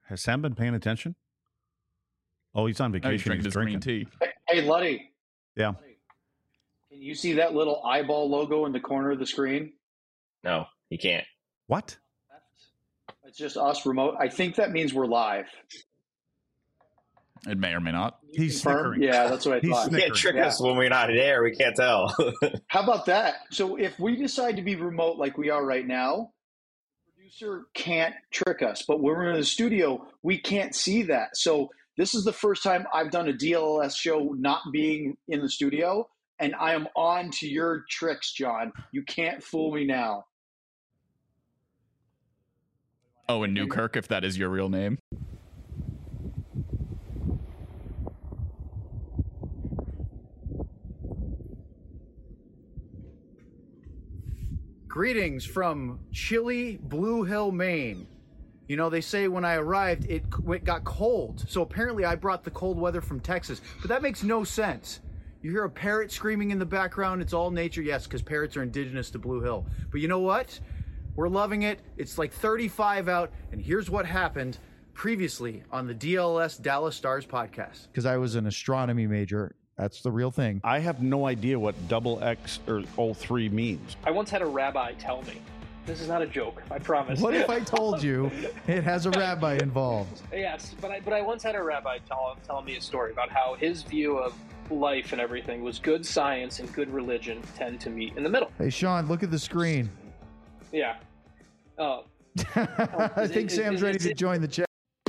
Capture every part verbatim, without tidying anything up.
Has Sam been paying attention? Oh, he's on vacation. Oh, he's drinking he's his green tea. Hey, hey, Luddy. Yeah. Luddy, can you see that little eyeball logo in the corner of the screen? No, you can't. What? It's just us remote. I think that means we're live. It may or may not. He's Confirm? snickering. Yeah, that's what I He's thought. You can't trick Yeah. us when we're not in air. We can't tell. How about that? So if we decide to be remote like we are right now, the producer can't trick us. But when we're in the studio, we can't see that. So this is the first time I've done a D L L S show not being in the studio, and I am on to your tricks, John. You can't fool me now. Oh, and Newkirk, if that is your real name. Greetings from chilly Blue Hill, Maine. You know, they say when I arrived, it, it got cold. So apparently I brought the cold weather from Texas. But that makes no sense. You hear a parrot screaming in the background. It's all nature. Yes, because parrots are indigenous to Blue Hill. But you know what? We're loving it. It's like thirty-five out. And here's what happened previously on the D L S Dallas Stars podcast. Because I was an astronomy major. That's the real thing. I have no idea what double X or O three means. I once had a rabbi tell me, this is not a joke, I promise. What if I told you it has a rabbi involved? Yes, but I, but I once had a rabbi tell, telling me a story about how his view of life and everything was good science and good religion tend to meet in the middle. Hey, Sean, look at the screen. Yeah. Oh. I think is- Sam's is- ready is to it- join the chat.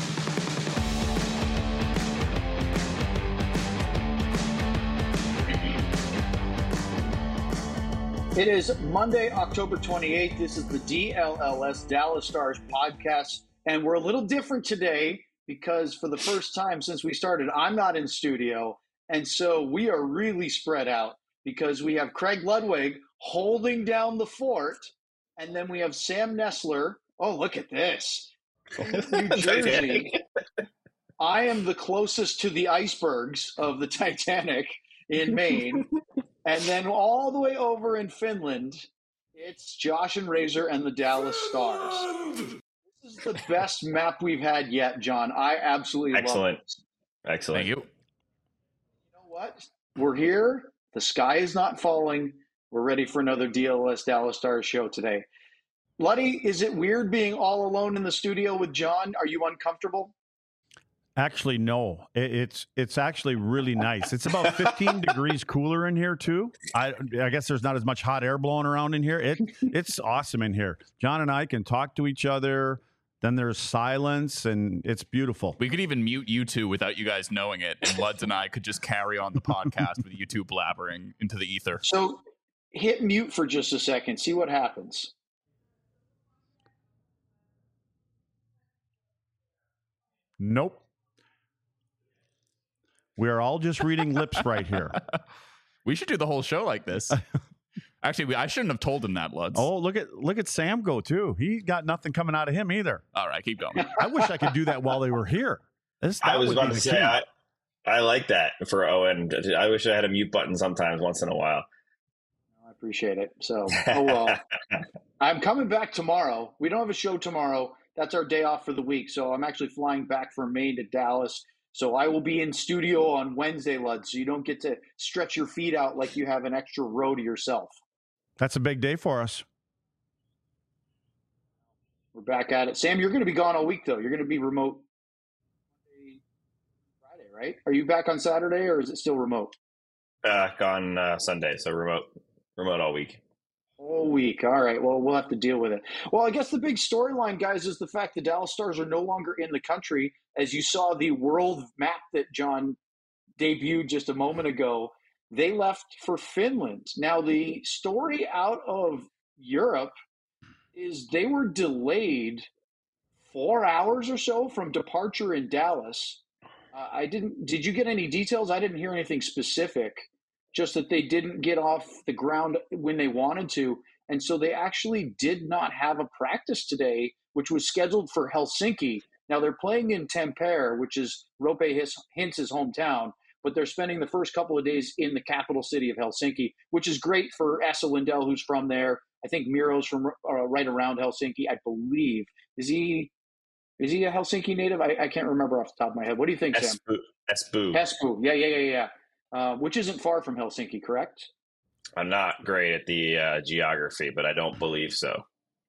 It is Monday, October twenty-eighth. This is the D L L S Dallas Stars podcast, and we're a little different today because for the first time since we started, I'm not in studio, and so we are really spread out because we have Craig Ludwig holding down the fort, and then we have Sam Nessler. Oh, look at this. New Jersey. I am the closest to the icebergs of the Titanic in Maine. And then all the way over in Finland, it's Josh and Razor and the Dallas Stars. This is the best map we've had yet, John. I absolutely Excellent. love it. Excellent. Thank you. You know what? We're here. The sky is not falling. We're ready for another D L S Dallas Stars show today. Luddy, is it weird being all alone in the studio with John? Are you uncomfortable? Actually, no. It, it's it's actually really nice. It's about fifteen degrees cooler in here too. I I guess there's not as much hot air blowing around in here. It it's awesome in here. John and I can talk to each other. Then there's silence, and it's beautiful. We could even mute you two without you guys knowing it, and Luds and I could just carry on the podcast with you two blabbering into the ether. So hit mute for just a second. See what happens. Nope. We are all just reading lips right here. We should do the whole show like this. Actually, we, I shouldn't have told him that, Luds. Oh, look at look at Sam go too. He got nothing coming out of him either. All right, keep going. I wish I could do that while they were here. This, I that was would about be to the say, key. I, I like that for Owen. I wish I had a mute button sometimes once in a while. I appreciate it. So, oh well. I'm coming back tomorrow. We don't have a show tomorrow. That's our day off for the week. So I'm actually flying back from Maine to Dallas. So I will be in studio on Wednesday, Lud. So you don't get to stretch your feet out like you have an extra row to yourself. That's a big day for us. We're back at it. Sam, you're going to be gone all week, though. You're going to be remote Monday, Friday, right? Are you back on Saturday, or is it still remote? Back on uh, Sunday, so remote, remote all week. Whole week. All right. Well, we'll have to deal with it. Well, I guess the big storyline, guys, is the fact the Dallas Stars are no longer in the country. As you saw the world map that John debuted just a moment ago, they left for Finland. Now, the story out of Europe is they were delayed four hours or so from departure in Dallas. Uh, I didn't. Did you get any details? I didn't hear anything specific. Just that they didn't get off the ground when they wanted to. And so they actually did not have a practice today, which was scheduled for Helsinki. Now they're playing in Tampere, which is Roope Hintz's hometown, but they're spending the first couple of days in the capital city of Helsinki, which is great for Esa Lindell, who's from there. I think Miro's from uh, right around Helsinki, I believe. Is he Is he a Helsinki native? I, I can't remember off the top of my head. What do you think, Sam? Espoo. Espoo. Espoo. Yeah, yeah, yeah, yeah. Uh, which isn't far from Helsinki, correct? I'm not great at the uh, geography, but I don't believe so.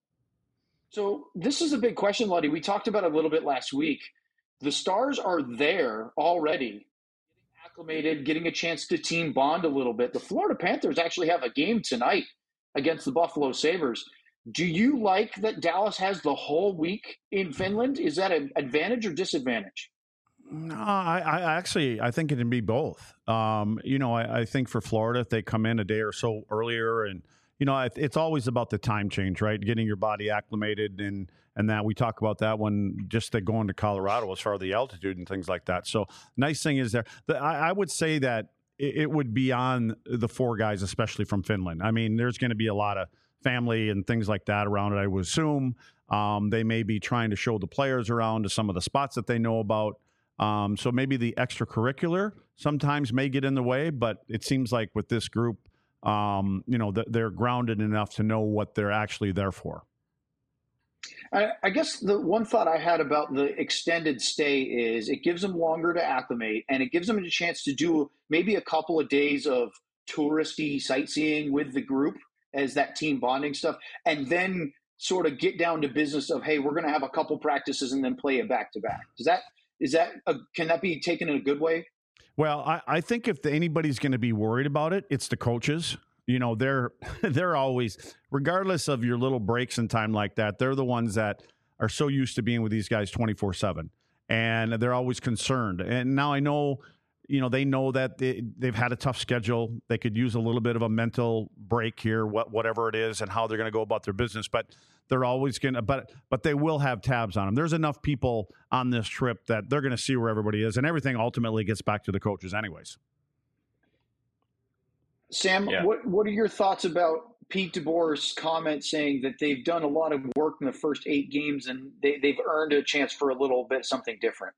So this is a big question, Luddy. We talked about it a little bit last week. The Stars are there already, getting acclimated, getting a chance to team bond a little bit. The Florida Panthers actually have a game tonight against the Buffalo Sabres. Do you like that Dallas has the whole week in Finland? Is that an advantage or disadvantage? No, I, I actually I think it can be both. Um, you know, I, I think for Florida, if they come in a day or so earlier, and you know, it, it's always about the time change, right? Getting your body acclimated, and and that we talk about that when just the going to Colorado as far as the altitude and things like that. So nice thing is there. The, I, I would say that it, it would be on the four guys, especially from Finland. I mean, there's going to be a lot of family and things like that around it, I would assume. Um, they may be trying to show the players around to some of the spots that they know about. Um, so maybe the extracurricular sometimes may get in the way, but it seems like with this group, um, you know, th- they're grounded enough to know what they're actually there for. I, I guess the one thought I had about the extended stay is it gives them longer to acclimate, and it gives them a chance to do maybe a couple of days of touristy sightseeing with the group as that team bonding stuff, and then sort of get down to business of, hey, we're going to have a couple practices and then play it back to back. Does that is that a, can that be taken in a good way? Well, I, I think if anybody's going to be worried about it, it's the coaches. You know, they're they're always, regardless of your little breaks in time like that, they're the ones that are so used to being with these guys twenty-four seven, and they're always concerned. And now I know, you know, they know that they, they've had a tough schedule. They could use a little bit of a mental break here, what, whatever it is, and how they're going to go about their business. But they're always going to, but but they will have tabs on them. There's enough people on this trip that they're going to see where everybody is, and everything ultimately gets back to the coaches anyways. Sam, Yeah. what what are your thoughts about Pete DeBoer's comment saying that they've done a lot of work in the first eight games and they, they've earned a chance for a little bit something different?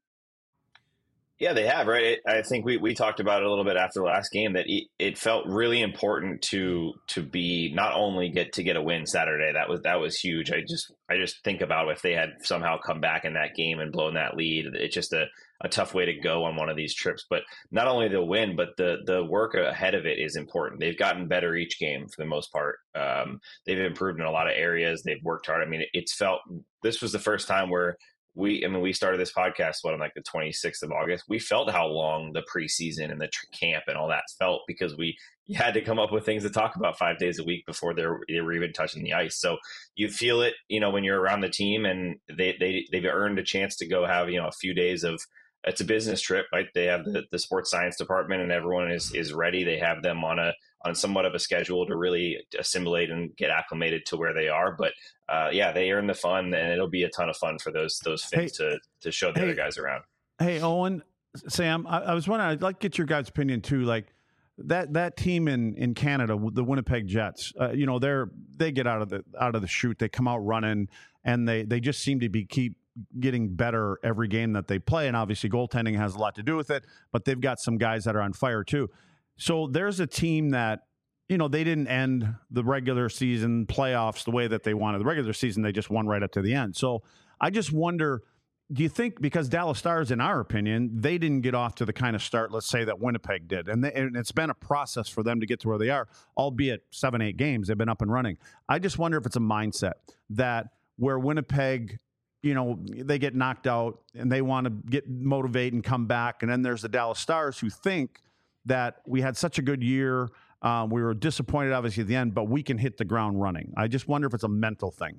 Yeah, they have, right? I think we, we talked about it a little bit after the last game that it felt really important to to be not only get to get a win Saturday. That was that was huge. I just I just think about if they had somehow come back in that game and blown that lead. It's just a, a tough way to go on one of these trips. But not only the win, but the the work ahead of it is important. They've gotten better each game for the most part. Um, they've improved in a lot of areas. They've worked hard. I mean, it's felt this was the first time where We, I mean, we started this podcast, what, on like the twenty-sixth of August. We felt how long the preseason and the tr- camp and all that felt because we you had to come up with things to talk about five days a week before they were, they were even touching the ice. So you feel it, you know, when you're around the team and they, they, they've earned a chance to go have, you know, a few days of, it's a business trip, right? They have the, the sports science department and everyone is, is ready. They have them on a, on somewhat of a schedule to really assimilate and get acclimated to where they are. But uh, yeah, they earn the fun, and it'll be a ton of fun for those those Finns hey, to to show the hey, other guys around. Hey, Owen, Sam, I, I was wondering, I'd like to get your guys' opinion too. Like that that team in, in Canada, the Winnipeg Jets, uh, you know, they're they get out of the out of the chute, they come out running, and they they just seem to be keep getting better every game that they play. And obviously, goaltending has a lot to do with it, but they've got some guys that are on fire too. So there's a team that, you know, they didn't end the regular season playoffs the way that they wanted. The regular season, they just won right up to the end. So I just wonder, do you think, because Dallas Stars, in our opinion, they didn't get off to the kind of start, let's say, that Winnipeg did. And, they, and it's been a process for them to get to where they are, albeit seven, eight games, they've been up and running. I just wonder if it's a mindset that where Winnipeg, you know, they get knocked out and they want to get motivate and come back. And then there's the Dallas Stars who think that we had such a good year. Um, we were disappointed, obviously, at the end, but we can hit the ground running. I just wonder if it's a mental thing.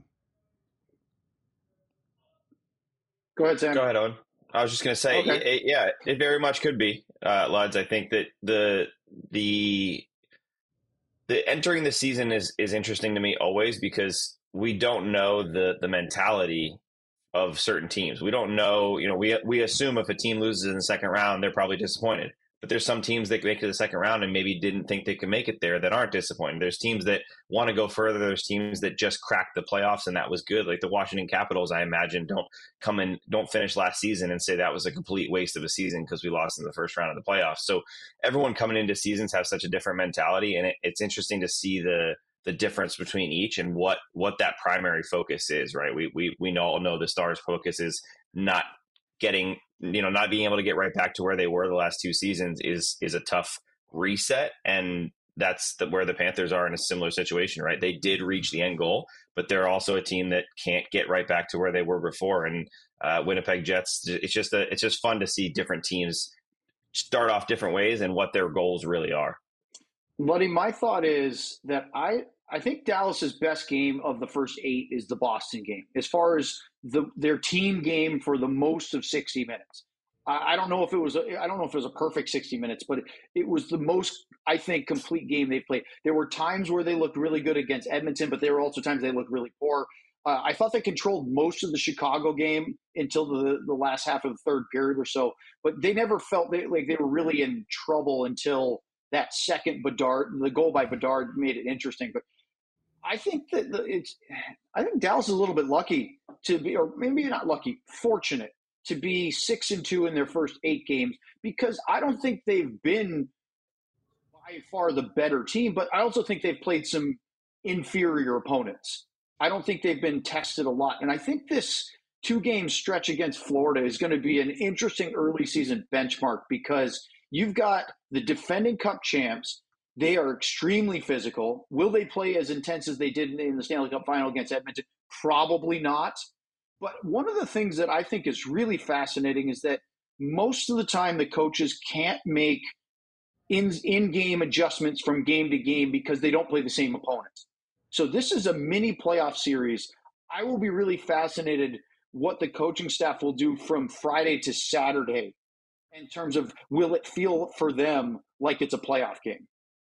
Go ahead, Sam. Go ahead, Owen. I was just going to say, Okay. it, it, yeah, it very much could be, uh, Luds. I think that the the the entering the season is is interesting to me always because we don't know the the mentality of certain teams. We don't know, you know, we we assume if a team loses in the second round, they're probably disappointed. But there's some teams that make it to the second round and maybe didn't think they could make it there that aren't disappointed. There's teams that want to go further. There's teams that just cracked the playoffs and that was good. Like the Washington Capitals, I imagine, don't come in, don't finish last season and say that was a complete waste of a season because we lost in the first round of the playoffs. So everyone coming into seasons have such a different mentality, and it, it's interesting to see the the difference between each and what what that primary focus is, right? We we we all know the Stars' focus is not getting, you know, not being able to get right back to where they were the last two seasons is is a tough reset. And that's the, where the Panthers are in a similar situation, right? They did reach the end goal, but they're also a team that can't get right back to where they were before. And uh, Winnipeg Jets, it's just a, it's just fun to see different teams start off different ways and what their goals really are. Buddy, my thought is that I I think Dallas's best game of the first eight is the Boston game, as far as the their team game for the most of sixty minutes. I, I don't know if it was a, I don't know if it was a perfect sixty minutes, but it, it was the most, I think, complete game they played. There were times where they looked really good against Edmonton, but there were also times they looked really poor. Uh, I thought they controlled most of the Chicago game until the, the last half of the third period or so, but they never felt they, like they were really in trouble until that second Bedard, the goal by Bedard made it interesting. But I think that the, it's, I think Dallas is a little bit lucky to be, or maybe not lucky, fortunate to be six and two in their first eight games, because I don't think they've been by far the better team, but I also think they've played some inferior opponents. I don't think they've been tested a lot. And I think this two-game stretch against Florida is going to be an interesting early season benchmark, because you've got the defending Cup champs. They are extremely physical. Will they play as intense as they did in the Stanley Cup final against Edmonton? Probably not. But one of the things that I think is really fascinating is that most of the time the coaches can't make in, in-game adjustments from game to game because they don't play the same opponents. So this is a mini playoff series. I will be really fascinated what the coaching staff will do from Friday to Saturday in terms of, will it feel for them like it's a playoff game?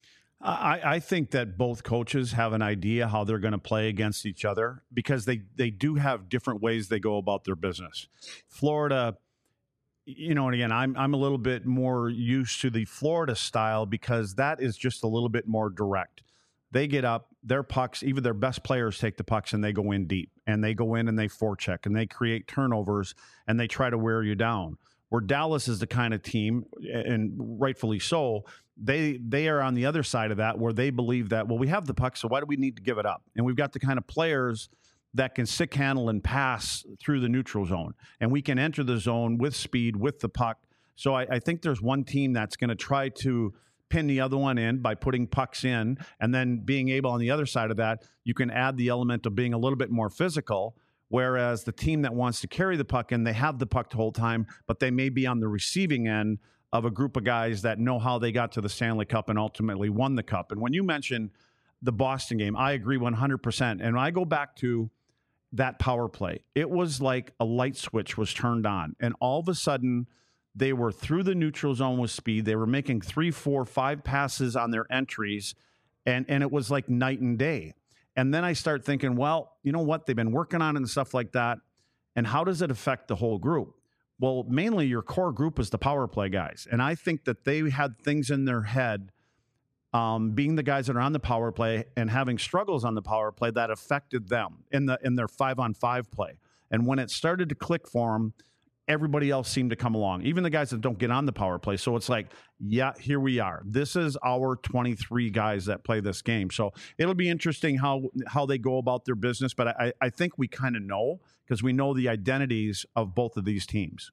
I, I think that both coaches have an idea how they're going to play against each other, because they, they do have different ways they go about their business. Florida, you know, and again, I'm I'm a little bit more used to the Florida style because that is just a little bit more direct. They get up, their pucks, even their best players take the pucks and they go in deep, and they go in and they forecheck and they create turnovers and they try to wear you down. Where Dallas is the kind of team, and rightfully so, they they are on the other side of that, where they believe that, well, we have the puck, so why do we need to give it up? And we've got the kind of players that can stick handle and pass through the neutral zone, and we can enter the zone with speed, with the puck. So I, I think there's one team that's going to try to pin the other one in by putting pucks in, and then being able on the other side of that, you can add the element of being a little bit more physical. Whereas the team that wants to carry the puck in, they have the puck the whole time, but they may be on the receiving end of a group of guys that know how they got to the Stanley Cup and ultimately won the Cup. And when you mention the Boston game, I agree one hundred percent. And when I go back to that power play, it was like a light switch was turned on. And all of a sudden, they were through the neutral zone with speed. They were making three, four, five passes on their entries, and, and it was like night and day. And then I start thinking, well, you know what? They've been working on it and stuff like that. And how does it affect the whole group? Well, mainly your core group is the power play guys. And I think that they had things in their head, um, being the guys that are on the power play and having struggles on the power play, that affected them in the in their five-on-five play. And when it started to click for them, everybody else seemed to come along, even the guys that don't get on the power play. So it's like, yeah, here we are. This is our twenty-three guys that play this game. So it'll be interesting how how they go about their business. But I, I think we kind of know, because we know the identities of both of these teams.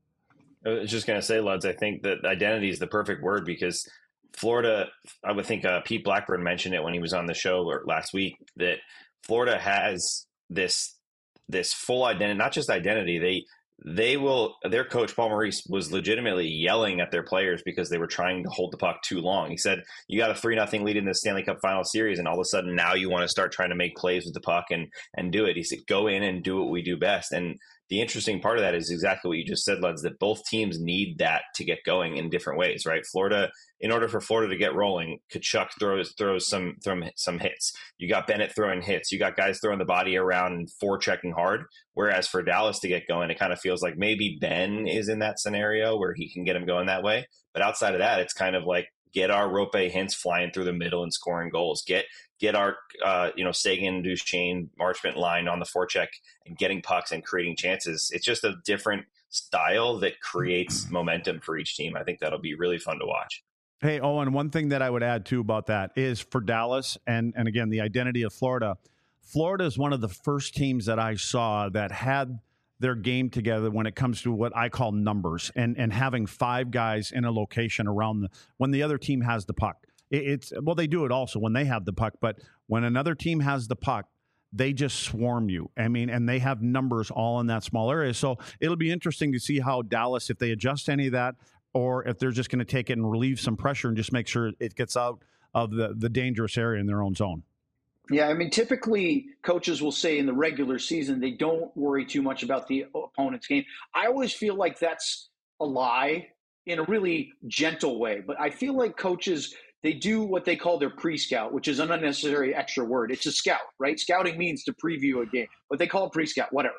I was just going to say, Luds, I think that identity is the perfect word, because Florida, I would think uh, Pete Blackburn mentioned it when he was on the show last week, that Florida has this this full identity, not just identity. They They will, their coach, Paul Maurice, was legitimately yelling at their players because they were trying to hold the puck too long. He said, you got a three nothing lead in the Stanley Cup final series, and all of a sudden now you want to start trying to make plays with the puck and, and do it. He said, go in and do what we do best. And the interesting part of that is exactly what you just said, Luds, that both teams need that to get going in different ways, right? Florida, in order for Florida to get rolling, Tkachuk throws throws some throw some hits. You got Bennett throwing hits. You got guys throwing the body around and forechecking hard. Whereas for Dallas to get going, it kind of feels like maybe Ben is in that scenario where he can get him going that way. But outside of that, it's kind of like, get our Rope Hintz flying through the middle and scoring goals. Get get our uh, you know Sagan, Duchesne, Marchment line on the forecheck and getting pucks and creating chances. It's just a different style that creates momentum for each team. I think that'll be really fun to watch. Hey, Owen, one thing that I would add too about that is for Dallas, and and again the identity of Florida. Florida is one of the first teams that I saw that had their game together when it comes to what I call numbers and, and having five guys in a location around the, when the other team has the puck. It, it's, well, they do it also when they have the puck, but when another team has the puck, they just swarm you. I mean, and they have numbers all in that small area. So it'll be interesting to see how Dallas, if they adjust any of that, or if they're just going to take it and relieve some pressure and just make sure it gets out of the, the dangerous area in their own zone. Yeah, I mean, typically coaches will say in the regular season they don't worry too much about the opponent's game. I always feel like that's a lie in a really gentle way. But I feel like coaches, they do what they call their pre-scout, which is an unnecessary extra word. It's a scout, right? Scouting means to preview a game, but they call it pre-scout, whatever.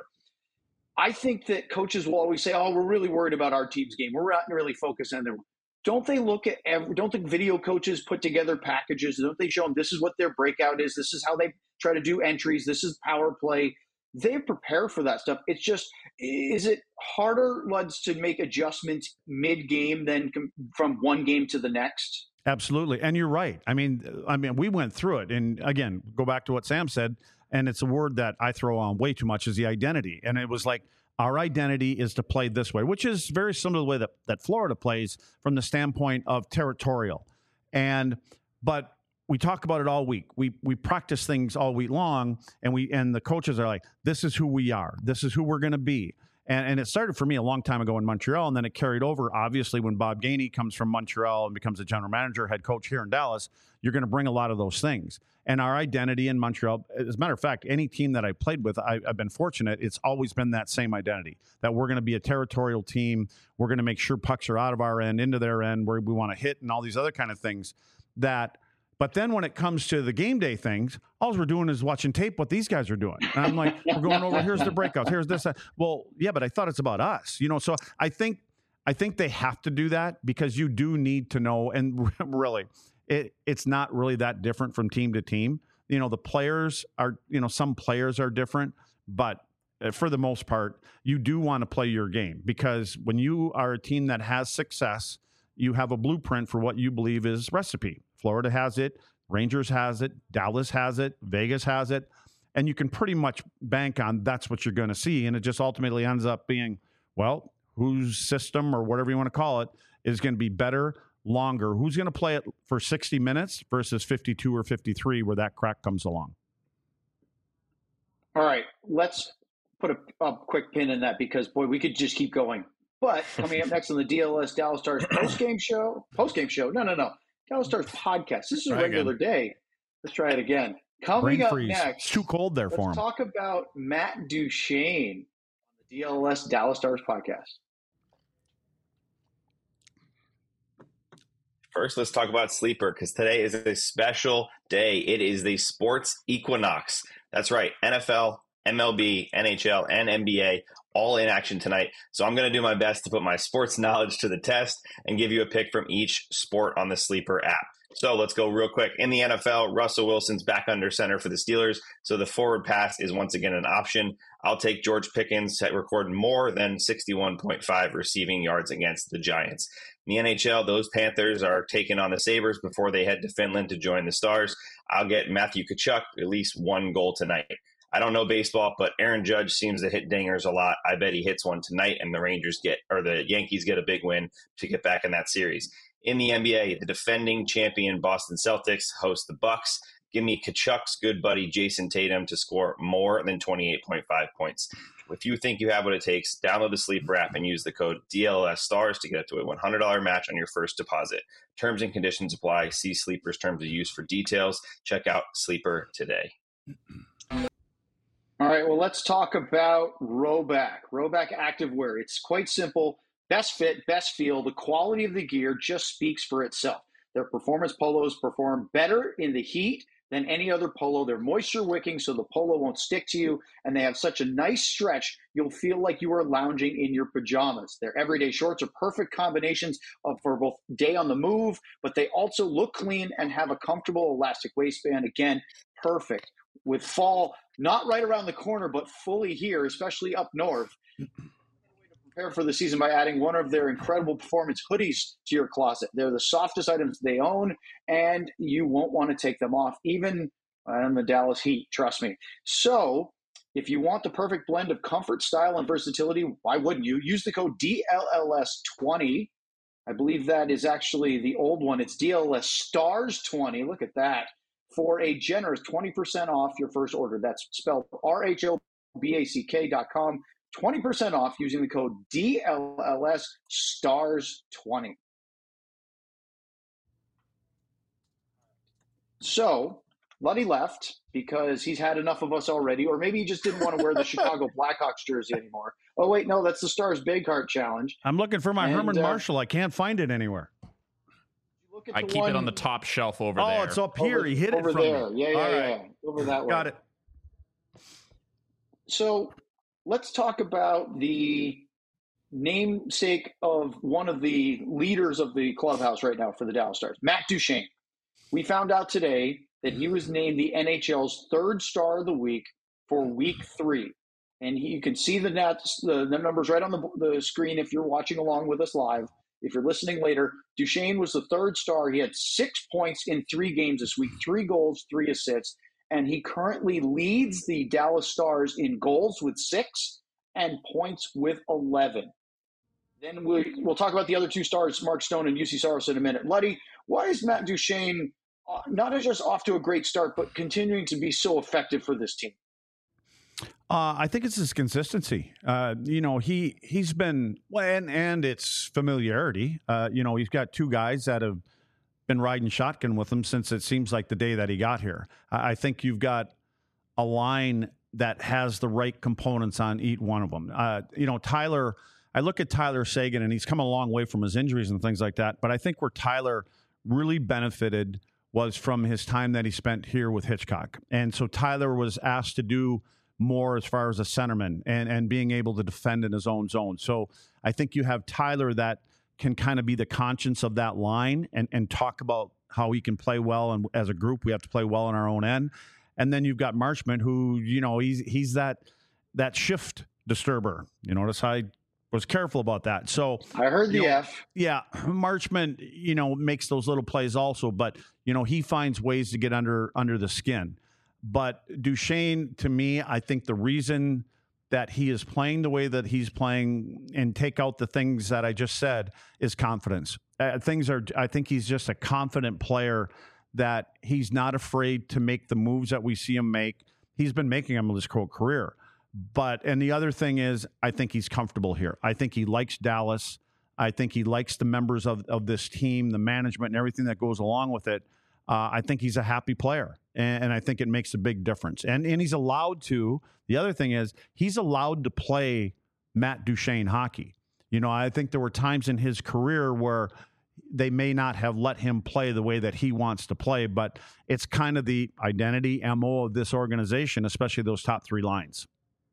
I think that coaches will always say, oh, we're really worried about our team's game. We're not really focused on their – don't they look at every, don't think video coaches put together packages? Don't they show them this is what their breakout is? This is how they try to do entries. This is power play. They prepare for that stuff. It's just, is it harder, Luds, to make adjustments mid-game than com- from one game to the next? Absolutely. And you're right. I mean, I mean, we went through it. And again, go back to what Sam said, and it's a word that I throw on way too much, is the identity. And it was like, our identity is to play this way, which is very similar to the way that, that Florida plays from the standpoint of territorial. And but we talk about it all week. We we practice things all week long, and we and the coaches are like, this is who we are. This is who we're going to be. And, and it started for me a long time ago in Montreal, and then it carried over. Obviously, when Bob Gainey comes from Montreal and becomes a general manager, head coach here in Dallas, you're going to bring a lot of those things. And our identity in Montreal, as a matter of fact, any team that I played with, I, I've been fortunate, it's always been that same identity, that we're going to be a territorial team. We're going to make sure pucks are out of our end, into their end, where we want to hit and all these other kind of things. That, but then when it comes to the game day things, all we're doing is watching tape what these guys are doing. And I'm like, we're going over, here's the breakouts, here's this. That. Well, yeah, but I thought it's about us. You know, so I think I think they have to do that because you do need to know, and really, it it's not really that different from team to team. You know, the players are, you know, some players are different, but for the most part, you do want to play your game because when you are a team that has success, you have a blueprint for what you believe is recipe. Florida has it, Rangers has it, Dallas has it, Vegas has it, and you can pretty much bank on that's what you're going to see. And it just ultimately ends up being, well, whose system or whatever you want to call it is going to be better, longer. Who's going to play it for sixty minutes versus fifty-two or fifty-three where that crack comes along? All right, let's put a, a quick pin in that because, boy, we could just keep going. But coming up next on the D L S Dallas Stars post-game show, post-game show, no, no, no, Dallas Stars podcast. This is a Try regular again. day. Let's try it again. Coming Brain up freeze. next, It's too cold there let's for him. talk about Matt Duchene on the D L S Dallas Stars podcast. First, let's talk about Sleeper because today is a special day. It is the sports equinox. That's right. N F L, M L B, N H L, and N B A all in action tonight. So I'm going to do my best to put my sports knowledge to the test and give you a pick from each sport on the Sleeper app. So let's go real quick. In the N F L, Russell Wilson's back under center for the Steelers, so the forward pass is once again an option. I'll take George Pickens to record more than sixty-one point five receiving yards against the Giants. In the N H L, those Panthers are taking on the Sabres before they head to Finland to join the Stars. I'll get Matthew Tkachuk at least one goal tonight. I don't know baseball, but Aaron Judge seems to hit dingers a lot. I bet he hits one tonight, and the Rangers get, or the Yankees get a big win to get back in that series. In the N B A, the defending champion Boston Celtics host the Bucks. Give me Kachuk's good buddy Jason Tatum to score more than twenty-eight point five points. If you think you have what it takes, download the Sleeper app and use the code D L S Stars to get up to a one hundred dollars match on your first deposit. Terms and conditions apply. See Sleeper's terms of use for details. Check out Sleeper today. All right, well, let's talk about Rhoback. Rhoback Activewear. It's quite simple. Best fit, best feel. The quality of the gear just speaks for itself. Their performance polos perform better in the heat than any other polo. They're moisture wicking, so the polo won't stick to you, and they have such a nice stretch, you'll feel like you are lounging in your pajamas. Their everyday shorts are perfect combinations of, for both day on the move, but they also look clean and have a comfortable elastic waistband. Again, perfect. With fall not right around the corner, but fully here, especially up north. Prepare for the season by adding one of their incredible performance hoodies to your closet. They're the softest items they own, and you won't want to take them off, even in the Dallas heat, trust me. So If you want the perfect blend of comfort, style, and versatility, why wouldn't you? Use the code D L L S twenty. I believe that is actually the old one. It's D L L S Stars twenty. Look at that. For a generous twenty percent off your first order. That's spelled R H O B A C K dot com. twenty percent off using the code D L L S Stars twenty. So, Luddy left because he's had enough of us already, or maybe he just didn't want to wear the Chicago Blackhawks jersey anymore. Oh, wait, no, that's the Stars Big Heart Challenge. I'm looking for my And, Herman uh, Marshall. I can't find it anywhere. Look at I the keep one it on the top shelf over Oh, there. it's up here. over, he hit over it from there. me. Yeah, yeah, All yeah. right. Over that way. Got it. So let's talk about the namesake of one of the leaders of the clubhouse right now for the Dallas Stars, Matt Duchene. We found out today that he was named the N H L's third star of the week for week three. And he, you can see the, nets, the, the numbers right on the, the screen if you're watching along with us live. If you're listening later, Duchene was the third star. He had six points in three games this week, three goals, three assists. And he currently leads the Dallas Stars in goals with six and points with eleven. Then we, we'll talk about the other two stars, Mark Stone and U C Saros, in a minute. Luddy, why is Matt Duchene uh, not just off to a great start, but continuing to be so effective for this team? Uh, I think it's his consistency. Uh, you know, he he's been well, and and it's familiarity. Uh, you know, he's got two guys that have been riding shotgun with him since it seems like the day that he got here. I, I think you've got a line that has the right components on each one of them. Uh, you know, Tyler. I look at Tyler Seguin, and he's come a long way from his injuries and things like that. But I think where Tyler really benefited was from his time that he spent here with Hitchcock. And so Tyler was asked to do more as far as a centerman and, and being able to defend in his own zone. So I think you have Tyler that can kind of be the conscience of that line and, and talk about how he can play well. And as a group, we have to play well on our own end. And then you've got Marchment, who, you know, he's he's that that shift disturber. You notice I was careful about that. So I heard the you know, F. Yeah, Marchment, you know, makes those little plays also, but you know, he finds ways to get under under the skin. But Duchene, to me, I think the reason that he is playing the way that he's playing and take out the things that I just said is confidence. Uh, things are, I think he's just a confident player that he's not afraid to make the moves that we see him make. He's been making them his whole career. But, and the other thing is, I think he's comfortable here. I think he likes Dallas. I think he likes the members of, of this team, the management, and everything that goes along with it. Uh, I think he's a happy player, and, and I think it makes a big difference. And and he's allowed to. The other thing is, he's allowed to play Matt Duchene hockey. You know, I think there were times in his career where they may not have let him play the way that he wants to play, but it's kind of the identity, M O of this organization, especially those top three lines.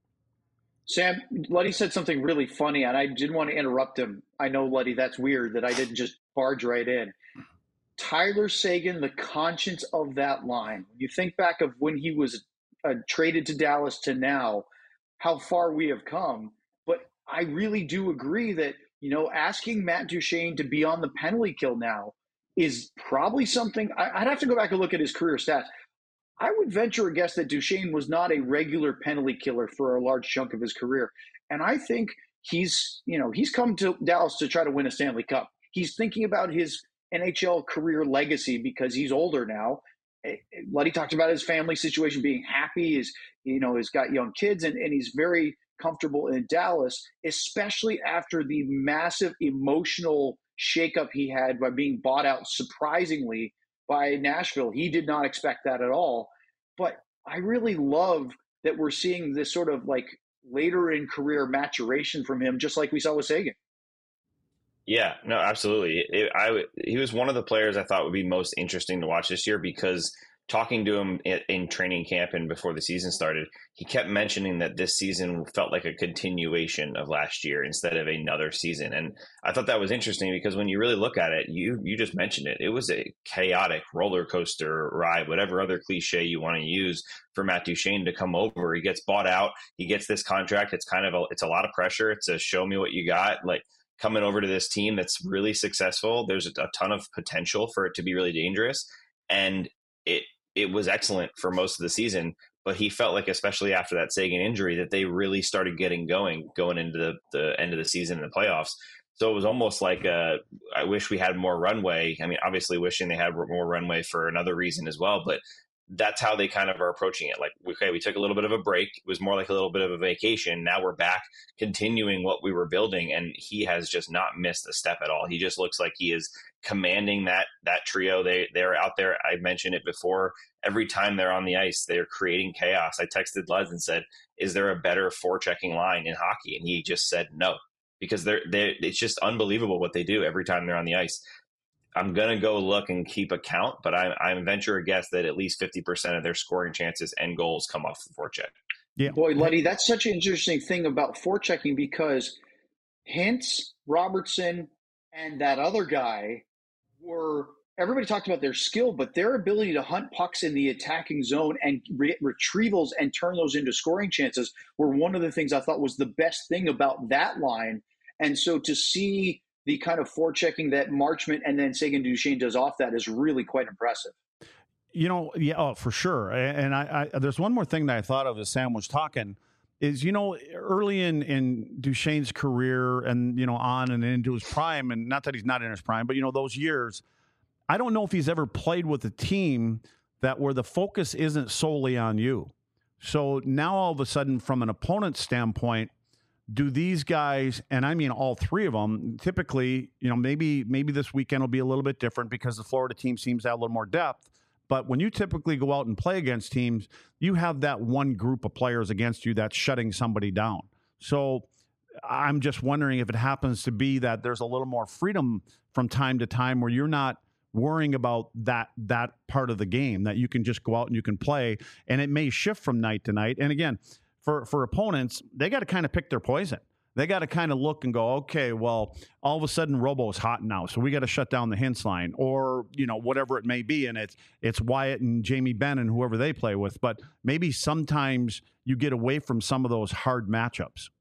Sam, Luddy said something really funny, and I didn't want to interrupt him. I know, Luddy, that's weird that I didn't just barge right in. Tyler Seguin, the conscience of that line. When you think back of when he was uh, traded to Dallas to now, how far we have come. But I really do agree that, you know, asking Matt Duchene to be on the penalty kill now is probably something – I'd have to go back and look at his career stats. I would venture a guess that Duchene was not a regular penalty killer for a large chunk of his career. And I think he's, you know, he's come to Dallas to try to win a Stanley Cup. He's thinking about his N H L career legacy because he's older now. Luddy talked about his family situation, being happy. He's, you know, he's got young kids, and, and he's very comfortable in Dallas, especially after the massive emotional shakeup he had by being bought out surprisingly by Nashville. He did not expect that at all. But I really love that we're seeing this sort of like later in career maturation from him, just like we saw with Seguin. Yeah, no, absolutely. It, I he was one of the players I thought would be most interesting to watch this year because talking to him in, in training camp and before the season started, he kept mentioning that this season felt like a continuation of last year instead of another season. And I thought that was interesting because when you really look at it, you you just mentioned it. It was a chaotic roller coaster ride, whatever other cliche you want to use for Matt Duchene to come over. He gets bought out. He gets this contract. It's kind of a, it's a lot of pressure. It's a show me what you got. Like, coming over to this team that's really successful, there's a ton of potential for it to be really dangerous. And it it was excellent for most of the season. but he felt like, especially after that Sagan injury, that they really started getting going, going into the, the end of the season and the playoffs. So it was almost like, uh, I wish we had more runway. I mean, obviously wishing they had more runway for another reason as well, but that's how they kind of are approaching it. Like, okay, we took a little bit of a break. It was more like a little bit of a vacation. Now we're back continuing what we were building. And he has just not missed a step at all. He just looks like he is commanding that, that trio. They, they're out there. I mentioned it before. Every time they're on the ice, they're creating chaos. I texted Luz and said, is there a better forechecking line in hockey? And he just said, no, because they're, they're, it's just unbelievable what they do every time they're on the ice. I'm going to go look and keep a count, but I, I venture a guess that at least fifty percent of their scoring chances and goals come off the forecheck. Yeah. Boy, Luddy, that's such an interesting thing about forechecking, because Hintz, Robertson, and that other guy were – everybody talked about their skill, but their ability to hunt pucks in the attacking zone and re- retrievals and turn those into scoring chances were one of the things I thought was the best thing about that line. And so to see – the kind of forechecking that Marchment and then Sagan Duchesne does off that is really quite impressive. You know, yeah, oh, for sure. And I, I, there's one more thing that I thought of as Sam was talking is, you know, early in, in Duchesne's career and, you know, on and into his prime, and not that he's not in his prime, but, you know, those years, I don't know if he's ever played with a team that where the focus isn't solely on you. So now all of a sudden, from an opponent's standpoint, do these guys, and I mean all three of them, typically, you know, maybe maybe this weekend will be a little bit different because the Florida team seems to have a little more depth. But when you typically go out and play against teams, you have that one group of players against you that's shutting somebody down. So I'm just wondering if it happens to be that there's a little more freedom from time to time where you're not worrying about that that part of the game, that you can just go out and you can play, and it may shift from night to night. And again, For for opponents, they got to kind of pick their poison. They got to kind of look and go, okay, well, all of a sudden Robo is hot now, so we got to shut down the Hintz line, or you know whatever it may be, and it's it's Wyatt and Jamie Benn and whoever they play with. But maybe sometimes you get away from some of those hard matchups.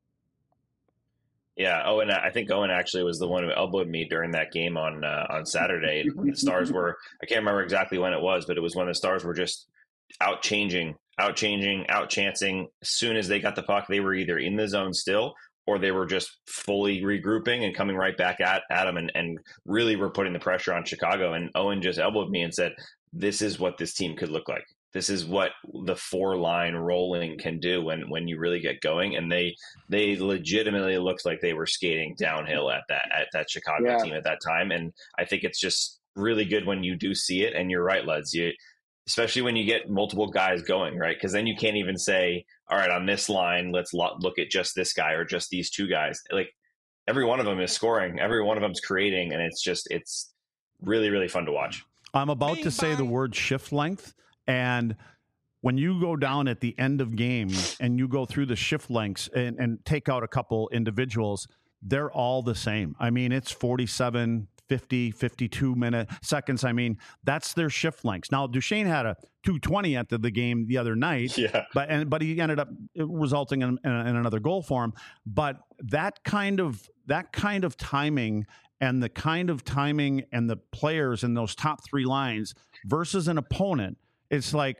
Yeah, Owen. I think Owen actually was the one who elbowed me during that game on uh, on Saturday. The Stars were, I can't remember exactly when it was, but it was when the Stars were just out changing. out changing, out chancing. As soon as they got the puck, they were either in the zone still, or they were just fully regrouping and coming right back at, at them and, and really were putting the pressure on Chicago. And Owen just elbowed me and said, this is what this team could look like. This is what the four line rolling can do when, when you really get going. And they, they legitimately looked like they were skating downhill at that, at that Chicago yeah. team at that time. And I think it's just really good when you do see it. And you're right, Lutz, you, especially when you get multiple guys going, right? Because then you can't even say, all right, on this line, let's lo- look at just this guy or just these two guys. Like every one of them is scoring, every one of them's creating, and it's just, it's really, really fun to watch. I'm about to say the word shift length, and when you go down at the end of games and you go through the shift lengths and, and take out a couple individuals, they're all the same. I mean, it's forty-seven, fifty, fifty-two minute seconds. I mean, that's their shift lengths. Now, Duchesne had a two twenty at the, the game the other night, yeah. but and but he ended up resulting in, in, in another goal for him. But that kind of that kind of timing and the kind of timing and the players in those top three lines versus an opponent, it's like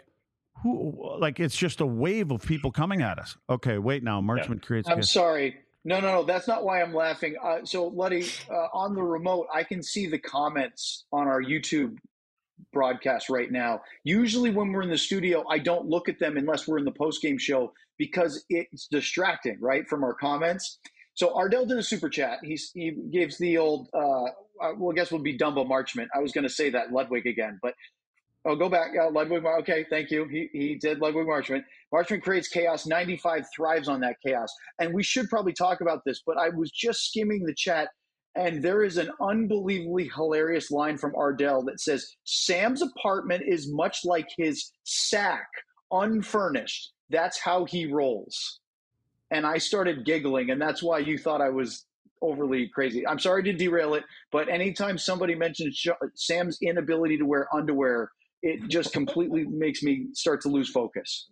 who like it's just a wave of people coming at us. Okay, wait now, Marchment yeah. creates. I'm sorry. No, no, no. That's not why I'm laughing. Uh, so, Luddy, uh, on the remote, I can see the comments on our YouTube broadcast right now. Usually when we're in the studio, I don't look at them unless we're in the post-game show because it's distracting, right, from our comments. So Ardell did a super chat. He's, he gives the old, uh, well, I guess we'll be Dumbo Marchment. I was going to say that Ludwig again, but oh, go back. Uh, Ludwig, okay, thank you. He he did Ludwig Marchment. Marchment creates chaos. ninety-five thrives on that chaos. And we should probably talk about this, but I was just skimming the chat, and there is an unbelievably hilarious line from Ardell that says, Sam's apartment is much like his sack, unfurnished. That's how he rolls. And I started giggling, and that's why you thought I was overly crazy. I'm sorry to derail it, but anytime somebody mentions Sam's inability to wear underwear, it just completely makes me start to lose focus.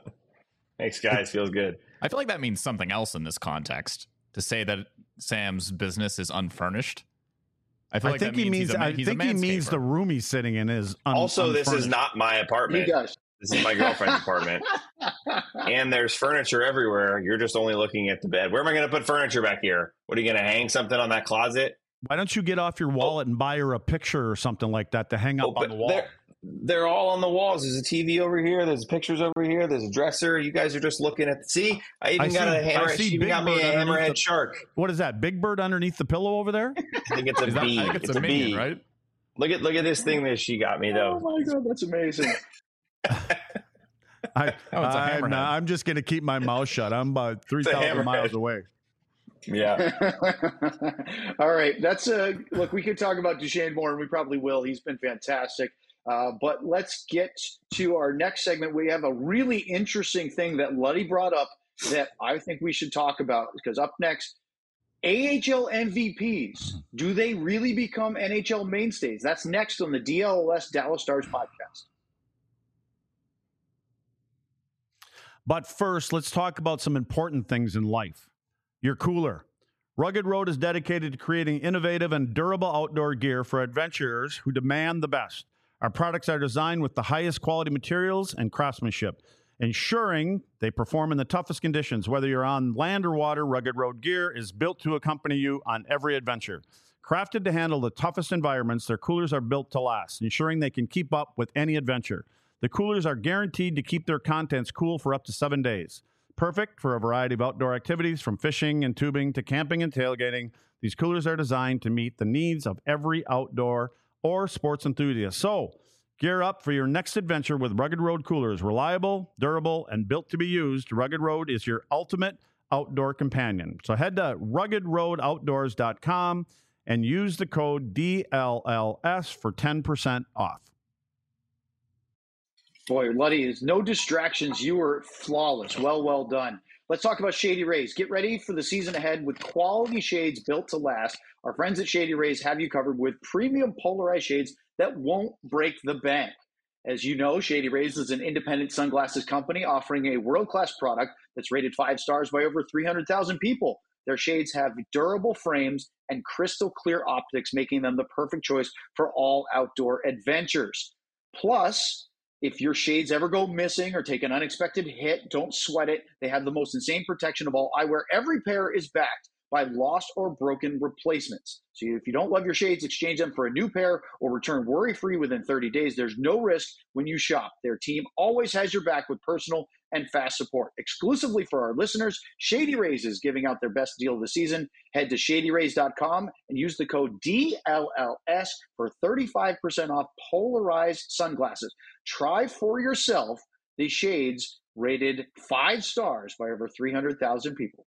Thanks, guys. Feels good. I feel like that means something else in this context. To say that Sam's business is unfurnished. I feel I like think that he means means. he's a, I he's think a he means the room he's sitting in is un- also. unfurnished. This is not my apartment. He does. This is my girlfriend's apartment. And there's furniture everywhere. You're just only looking at the bed. Where am I going to put furniture back here? What are you going to hang something on that closet? Why don't you get off your wallet and buy her a picture or something like that to hang up Oh, on the wall? They're, they're all on the walls. There's a T V over here. There's pictures over here. There's a dresser. You guys are just looking at. The, see, I even I got see- a hammer. I see She even Big got me Bird a underneath hammerhead the- shark. What is that? Big Bird underneath the pillow over there? I think it's a Is that- bee. I think it's, it's a minion, bee. right? Look at look at this thing that she got me though. Oh my god, that's amazing. I, Oh, it's a I'm, hammerhead. not- I'm just going to keep my mouth shut. I'm about three It's a thousand hammerhead. miles away. Yeah. All right, that's a look. We could talk about Duchesne more, and we probably will. He's been fantastic. Uh, but let's get to our next segment. We have a really interesting thing that Luddy brought up that I think we should talk about, because up next, A H L M V Ps. Do they really become N H L mainstays? That's next on the D L S Dallas Stars podcast. But first, let's talk about some important things in life. Your cooler. Rugged Road is dedicated to creating innovative and durable outdoor gear for adventurers who demand the best. Our products are designed with the highest quality materials and craftsmanship, ensuring they perform in the toughest conditions. Whether you're on land or water, Rugged Road gear is built to accompany you on every adventure. Crafted to handle the toughest environments, their coolers are built to last, ensuring they can keep up with any adventure. The coolers are guaranteed to keep their contents cool for up to seven days. Perfect for a variety of outdoor activities, from fishing and tubing to camping and tailgating. These coolers are designed to meet the needs of every outdoor or sports enthusiast. So, gear up for your next adventure with Rugged Road coolers. Reliable, durable, and built to be used, Rugged Road is your ultimate outdoor companion. So head to rugged road outdoors dot com and use the code D L L S for ten percent off. Boy, Luddy, there's no distractions. You were flawless. Well, well done. Let's talk about Shady Rays. Get ready for the season ahead with quality shades built to last. Our friends at Shady Rays have you covered with premium polarized shades that won't break the bank. As you know, Shady Rays is an independent sunglasses company offering a world-class product that's rated five stars by over three hundred thousand people. Their shades have durable frames and crystal clear optics, making them the perfect choice for all outdoor adventures. Plus, if your shades ever go missing or take an unexpected hit, don't sweat it. They have the most insane protection of all eyewear. Every pair is backed by lost or broken replacements. So if you don't love your shades, exchange them for a new pair or return worry-free within thirty days. There's no risk when you shop. Their team always has your back with personal and fast support. Exclusively for our listeners, Shady Rays is giving out their best deal of the season. Head to shady rays dot com and use the code D L L S for thirty-five percent off polarized sunglasses. Try for yourself the shades rated five stars by over three hundred thousand people.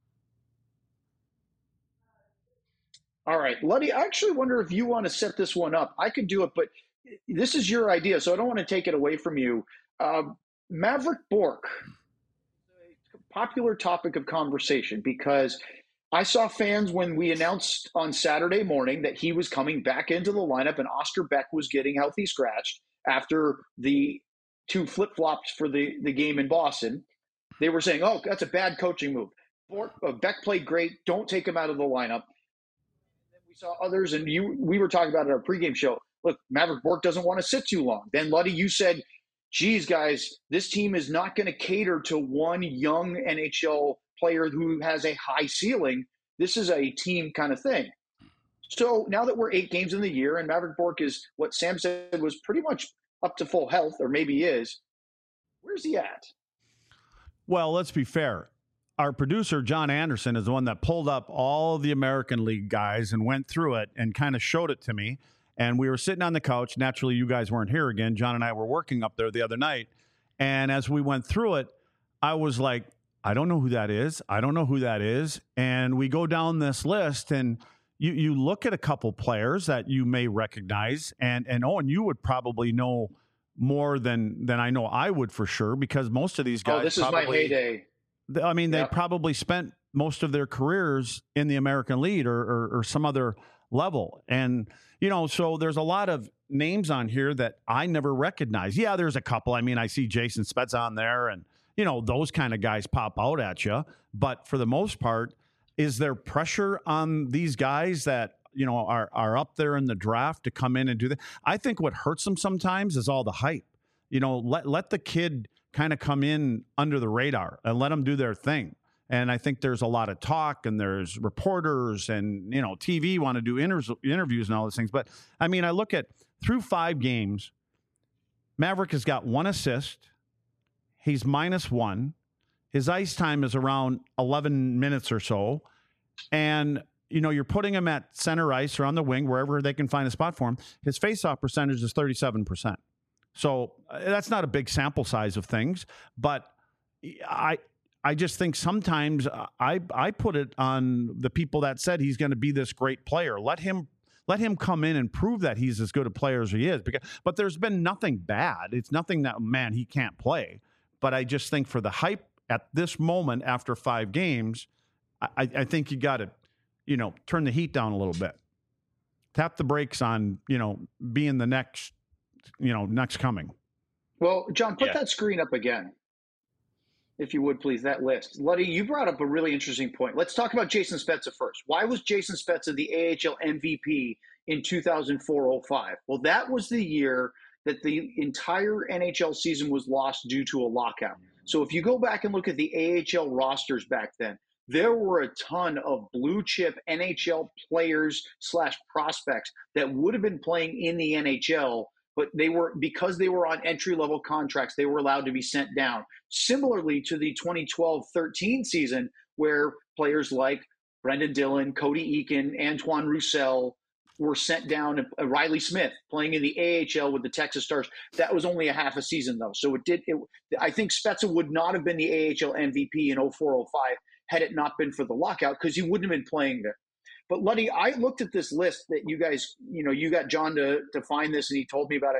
All right, Luddy, I actually wonder if you want to set this one up. I could do it, but this is your idea, so I don't want to take it away from you. Uh, Maverick Bourque, a popular topic of conversation, because I saw fans when we announced on Saturday morning that he was coming back into the lineup and Oscar Beck was getting healthy scratched after the two flip-flops for the, the game in Boston. They were saying, oh, that's a bad coaching move. Bourque, uh, Beck played great. Don't take him out of the lineup. We saw others, and you we were talking about it at our pregame show. Look, Maverick Bourque doesn't want to sit too long. Then, Luddy, you said, geez, guys, this team is not going to cater to one young N H L player who has a high ceiling. This is a team kind of thing. So now that we're eight games in the year and Maverick Bourque is what Sam said was pretty much up to full health, or maybe is, where's he at? Well, let's be fair. Our producer, John Anderson, is the one that pulled up all the American League guys and went through it and kind of showed it to me. And we were sitting on the couch. Naturally, you guys weren't here again. John and I were working up there the other night. And as we went through it, I was like, I don't know who that is. I don't know who that is. And we go down this list, and you you look at a couple players that you may recognize. And, and Owen, you would probably know more than, than I know I would for sure, because most of these guys. Oh, this is probably, my heyday. I mean, they Yep. probably spent most of their careers in the American League or, or, or some other level. And, you know, so there's a lot of names on here that I never recognize. Yeah, there's a couple. I mean, I see Jason Spetz on there, and, you know, those kind of guys pop out at you. But for the most part, is there pressure on these guys that, you know, are, are up there in the draft to come in and do that? I think what hurts them sometimes is all the hype. you know, let let the kid kind of come in under the radar and let them do their thing. And I think there's a lot of talk, and there's reporters and, you know, T V want to do inter- interviews and all those things. But I mean, I look at through five games, Maverick has got one assist. He's minus one. His ice time is around eleven minutes or so. And, you know, you're putting him at center ice or on the wing, wherever they can find a spot for him. His faceoff percentage is thirty-seven percent. So uh, that's not a big sample size of things. But I I just think sometimes I, I put it on the people that said he's going to be this great player. Let him let him come in and prove that he's as good a player as he is. Because, but there's been nothing bad. It's nothing that, man, he can't play. But I just think for the hype at this moment after five games, I, I think you got to, you know, turn the heat down a little bit. Tap the brakes on, you know, being the next, you know, next coming. Well, John, put Yeah. that screen up again, if you would, please, that list. Luddy, you brought up a really interesting point. Let's talk about Jason Spezza first. Why was Jason Spezza the A H L M V P in two thousand four oh five? Well, that was the year that the entire N H L season was lost due to a lockout. So if you go back and look at the A H L rosters back then, there were a ton of blue chip N H L players slash prospects that would have been playing in the N H L, but they were, because they were on entry level contracts, they were allowed to be sent down. Similarly to the twenty twelve thirteen season, where players like Brendan Dillon, Cody Eakin, Antoine Roussel were sent down. uh, Riley Smith playing in the A H L with the Texas Stars. That was only a half a season though. So it did, it, I think Spezza would not have been the A H L M V P in oh four oh five had it not been for the lockout, because he wouldn't have been playing there. But Luddy, I looked at this list that you guys, you know, you got John to, to find this, and he told me about it.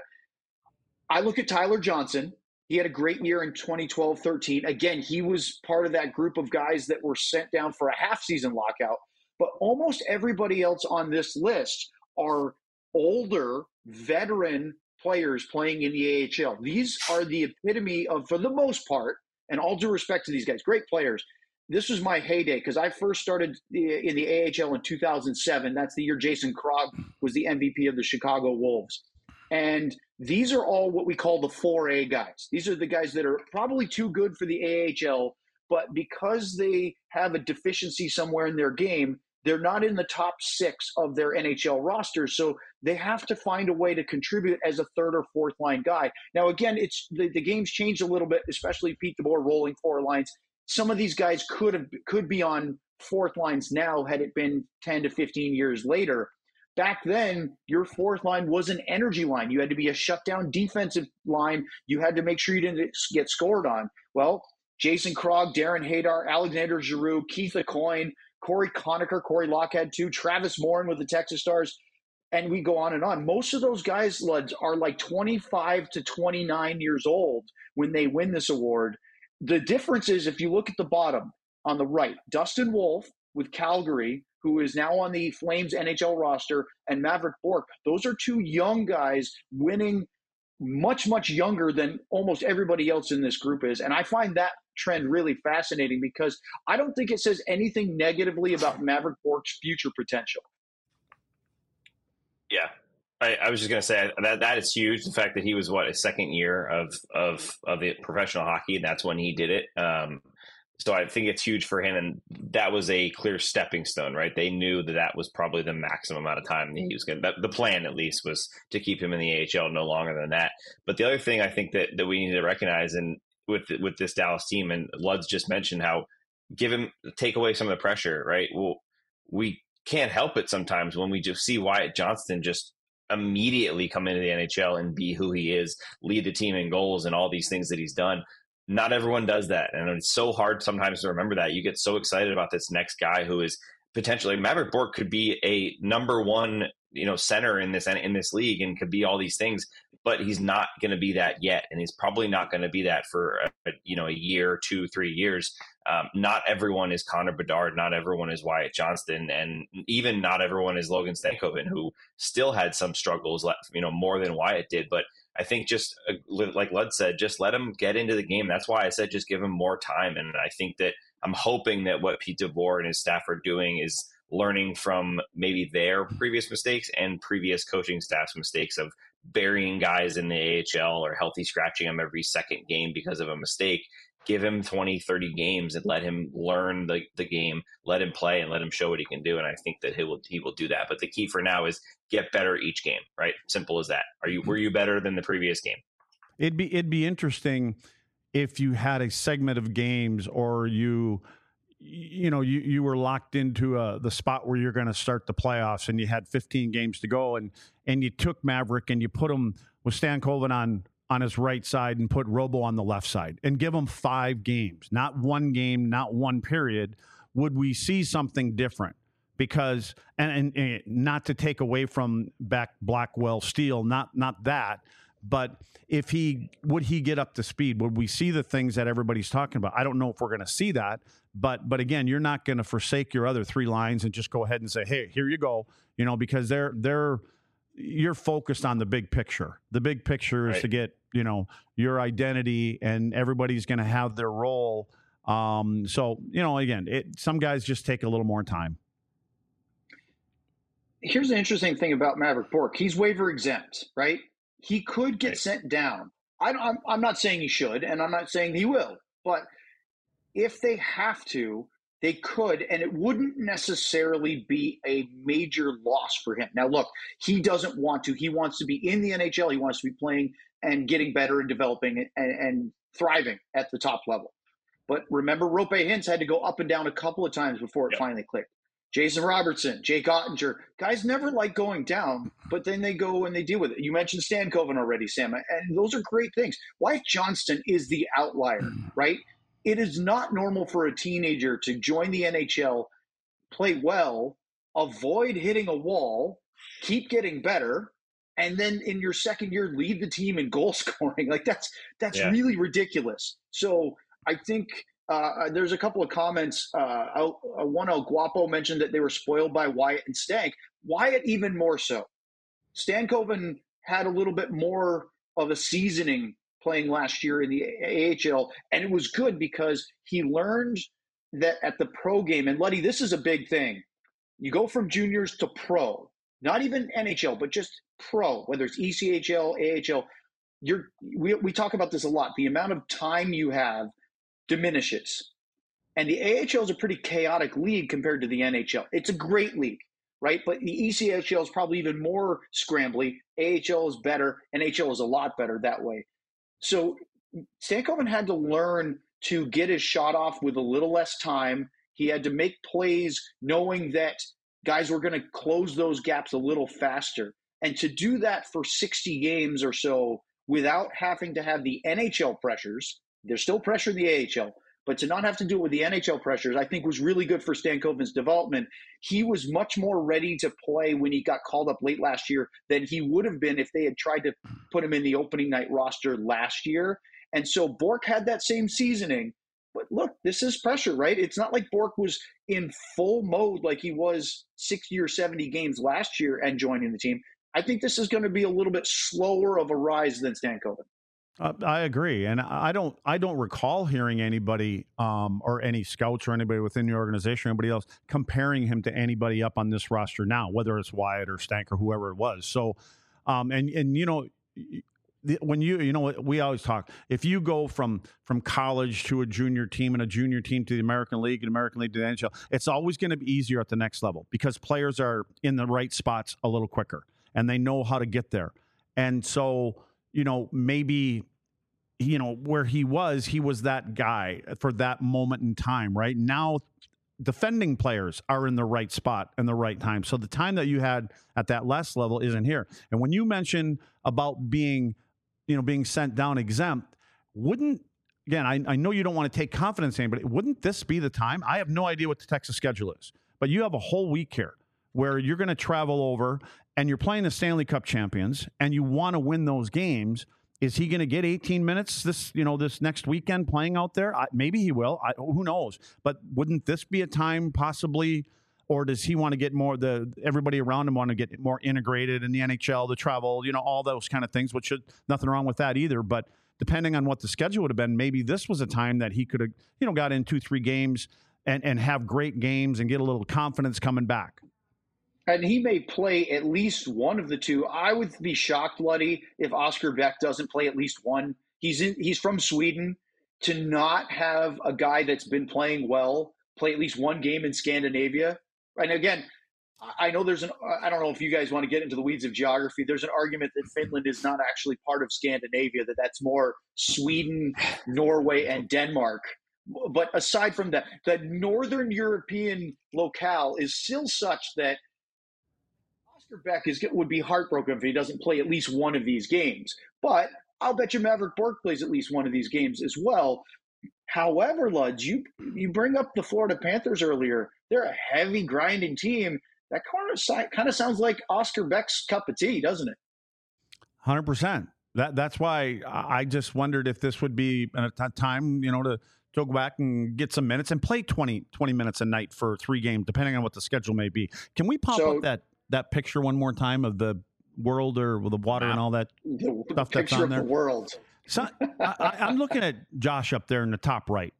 I look at Tyler Johnson. He had a great year in twenty twelve thirteen. Again, he was part of that group of guys that were sent down for a half season lockout. But almost everybody else on this list are older, veteran players playing in the A H L. These are the epitome of, for the most part, and all due respect to these guys, great players. This was my heyday because I first started in the A H L in two thousand seven. That's the year Jason Krog was the M V P of the Chicago Wolves. And these are all what we call the four A guys. These are the guys that are probably too good for the A H L, but because they have a deficiency somewhere in their game, they're not in the top six of their N H L roster. So they have to find a way to contribute as a third or fourth line guy. Now, again, it's the, the game's changed a little bit, especially Pete DeBoer rolling four lines. Some of these guys could have could be on fourth lines now had it been ten to fifteen years later. Back then, your fourth line was an energy line. You had to be a shutdown defensive line. You had to make sure you didn't get scored on. Well, Jason Krog, Darren Hadar, Alexander Giroux, Keith Aucoin, Corey Conacher, Corey Lockhead too, Travis Morin with the Texas Stars, and we go on and on. Most of those guys, Luds, are like twenty-five to twenty-nine years old when they win this award. The difference is, if you look at the bottom on the right, Dustin Wolf with Calgary, who is now on the Flames N H L roster, and Maverick Bourque. Those are two young guys winning much, much younger than almost everybody else in this group is. And I find that trend really fascinating because I don't think it says anything negatively about Maverick Bourque's future potential. Yeah. I, I was just going to say that that is huge. The fact that he was what, his second year of of of the professional hockey, and that's when he did it. Um, so I think it's huge for him, and that was a clear stepping stone, right? They knew that that was probably the maximum amount of time that he was going. to The plan, at least, was to keep him in the A H L no longer than that. But the other thing I think that that we need to recognize, and with with this Dallas team, and Lud's just mentioned how give him take away some of the pressure, right? Well, we can't help it sometimes when we just see Wyatt Johnston just immediately come into the N H L and be who he is, lead the team in goals and all these things that he's done. Not everyone does that. And it's so hard sometimes to remember that. You get so excited about this next guy who is potentially Maverick Bourque could be a number one, you know, center in this, in this league and could be all these things, but he's not going to be that yet. And he's probably not going to be that for, a, you know, a year, two, three years. Um, not everyone is Connor Bedard. Not everyone is Wyatt Johnston. And even not everyone is Logan Stankoven, who still had some struggles, you know, more than Wyatt did. But I think just uh, like Lud said, just let him get into the game. That's why I said just give him more time. And I think that I'm hoping that what Pete DeBoer and his staff are doing is learning from maybe their previous mistakes and previous coaching staff's mistakes of burying guys in the A H L or healthy scratching them every second game because of a mistake. Give him twenty, thirty games and let him learn the, the game, let him play and let him show what he can do. And I think that he will, he will do that. But the key for now is get better each game, right? Simple as that. Are you, were you better than the previous game? It'd be, it'd be interesting if you had a segment of games or you, you know, you, you were locked into a, the spot where you're going to start the playoffs and you had fifteen games to go and, and you took Maverick and you put him with Stankoven on, on his right side and put Robo on the left side and give him five games, not one game, not one period. Would we see something different? Because, and, and, and not to take away from back Blackwell Steele, not, not that, but if he, would he get up to speed? Would we see the things that everybody's talking about? I don't know if we're going to see that, but, but again, you're not going to forsake your other three lines and just go ahead and say, hey, here you go, you know, because they're, they're, you're focused on the big picture. The big picture is right. to get, you know, your identity and everybody's going to have their role. Um, so, you know, again, it, some guys just take a little more time. Here's the interesting thing about Maverick Bourque. He's waiver exempt, right? He could get right. sent down. I don't, I'm, I'm not saying he should, and I'm not saying he will, but if they have to, they could, and it wouldn't necessarily be a major loss for him. Now, look, he doesn't want to. He wants to be in the N H L. He wants to be playing and getting better and developing and, and thriving at the top level. But remember, Roope Hintz had to go up and down a couple of times before it yep. finally clicked. Jason Robertson, Jake Ottinger, guys never like going down, but then they go and they deal with it. You mentioned Stankoven already, Sam, and those are great things. Wyatt Johnston is the outlier, right? It is not normal for a teenager to join the N H L, play well, avoid hitting a wall, keep getting better, and then in your second year lead the team in goal scoring. Like that's that's yeah. really ridiculous. So I think uh, there's a couple of comments. Uh, one El Guapo mentioned that they were spoiled by Wyatt and Stank. Wyatt even more so. Stankoven had a little bit more of a seasoning playing last year in the A H L, and it was good because he learned that at the pro game, and Luddy, this is a big thing. You go from juniors to pro, not even N H L, but just pro, whether it's E C H L, A H L. You're, we, we talk about this a lot. The amount of time you have diminishes. And the A H L is a pretty chaotic league compared to the N H L. It's a great league, right? But the E C H L is probably even more scrambly. A H L is better. N H L is a lot better that way. So Stankoven had to learn to get his shot off with a little less time. He had to make plays knowing that guys were going to close those gaps a little faster. And to do that for sixty games or so without having to have the N H L pressures, there's still pressure in the A H L, but to not have to do it with the N H L pressures, I think was really good for Stankoven's development. He was much more ready to play when he got called up late last year than he would have been if they had tried to put him in the opening night roster last year. And so Bourque had that same seasoning. But look, this is pressure, right? It's not like Bourque was in full mode like he was sixty or seventy games last year and joining the team. I think this is going to be a little bit slower of a rise than Stankoven. Uh, I agree, and I don't. I don't recall hearing anybody um, or any scouts or anybody within the organization or anybody else comparing him to anybody up on this roster now, whether it's Wyatt or Stank or whoever it was. So, um, and and you know, when you you know we always talk. If you go from from college to a junior team and a junior team to the American League and American League to the N H L, it's always going to be easier at the next level because players are in the right spots a little quicker and they know how to get there. And so, you know, maybe, you know, where he was, he was that guy for that moment in time, right? Now, defending players are in the right spot and the right time. So the time that you had at that last level isn't here. And when you mention about being, you know, being sent down exempt, wouldn't, again, I, I know you don't want to take confidence in, but wouldn't this be the time? I have no idea what the Texas schedule is, but you have a whole week here where you're going to travel over and you're playing the Stanley Cup champions and you want to win those games. Is he going to get eighteen minutes this, you know, this next weekend playing out there? I, maybe he will. I, who knows? But wouldn't this be a time possibly, or does he want to get more, the everybody around him want to get more integrated in the N H L, the travel, you know, all those kind of things, which should, nothing wrong with that either. But depending on what the schedule would have been, maybe this was a time that he could have, you know, got in two, three games and, and have great games and get a little confidence coming back. And he may play at least one of the two. I would be shocked, Luddy, if Oscar Beck doesn't play at least one. He's in, he's from Sweden. To not have a guy that's been playing well play at least one game in Scandinavia. And again, I know there's an, I don't know if you guys want to get into the weeds of geography. There's an argument that Finland is not actually part of Scandinavia, that that's more Sweden, Norway, and Denmark. But aside from that, the Northern European locale is still such that Oscar Beck is would be heartbroken if he doesn't play at least one of these games. But I'll bet you Maverick Bourque plays at least one of these games as well. However, Luds, you you bring up the Florida Panthers earlier. They're a heavy grinding team. That kind of sounds like Oscar Beck's cup of tea, doesn't it? one hundred percent. That that's why I just wondered if this would be a time, you know, to, to go back and get some minutes and play twenty, twenty minutes a night for three games, depending on what the schedule may be. Can we pop So- up that that picture one more time of the world or the water and all that The stuff that's picture on of there? the world. So, I, I, I'm looking at Josh up there in the top right.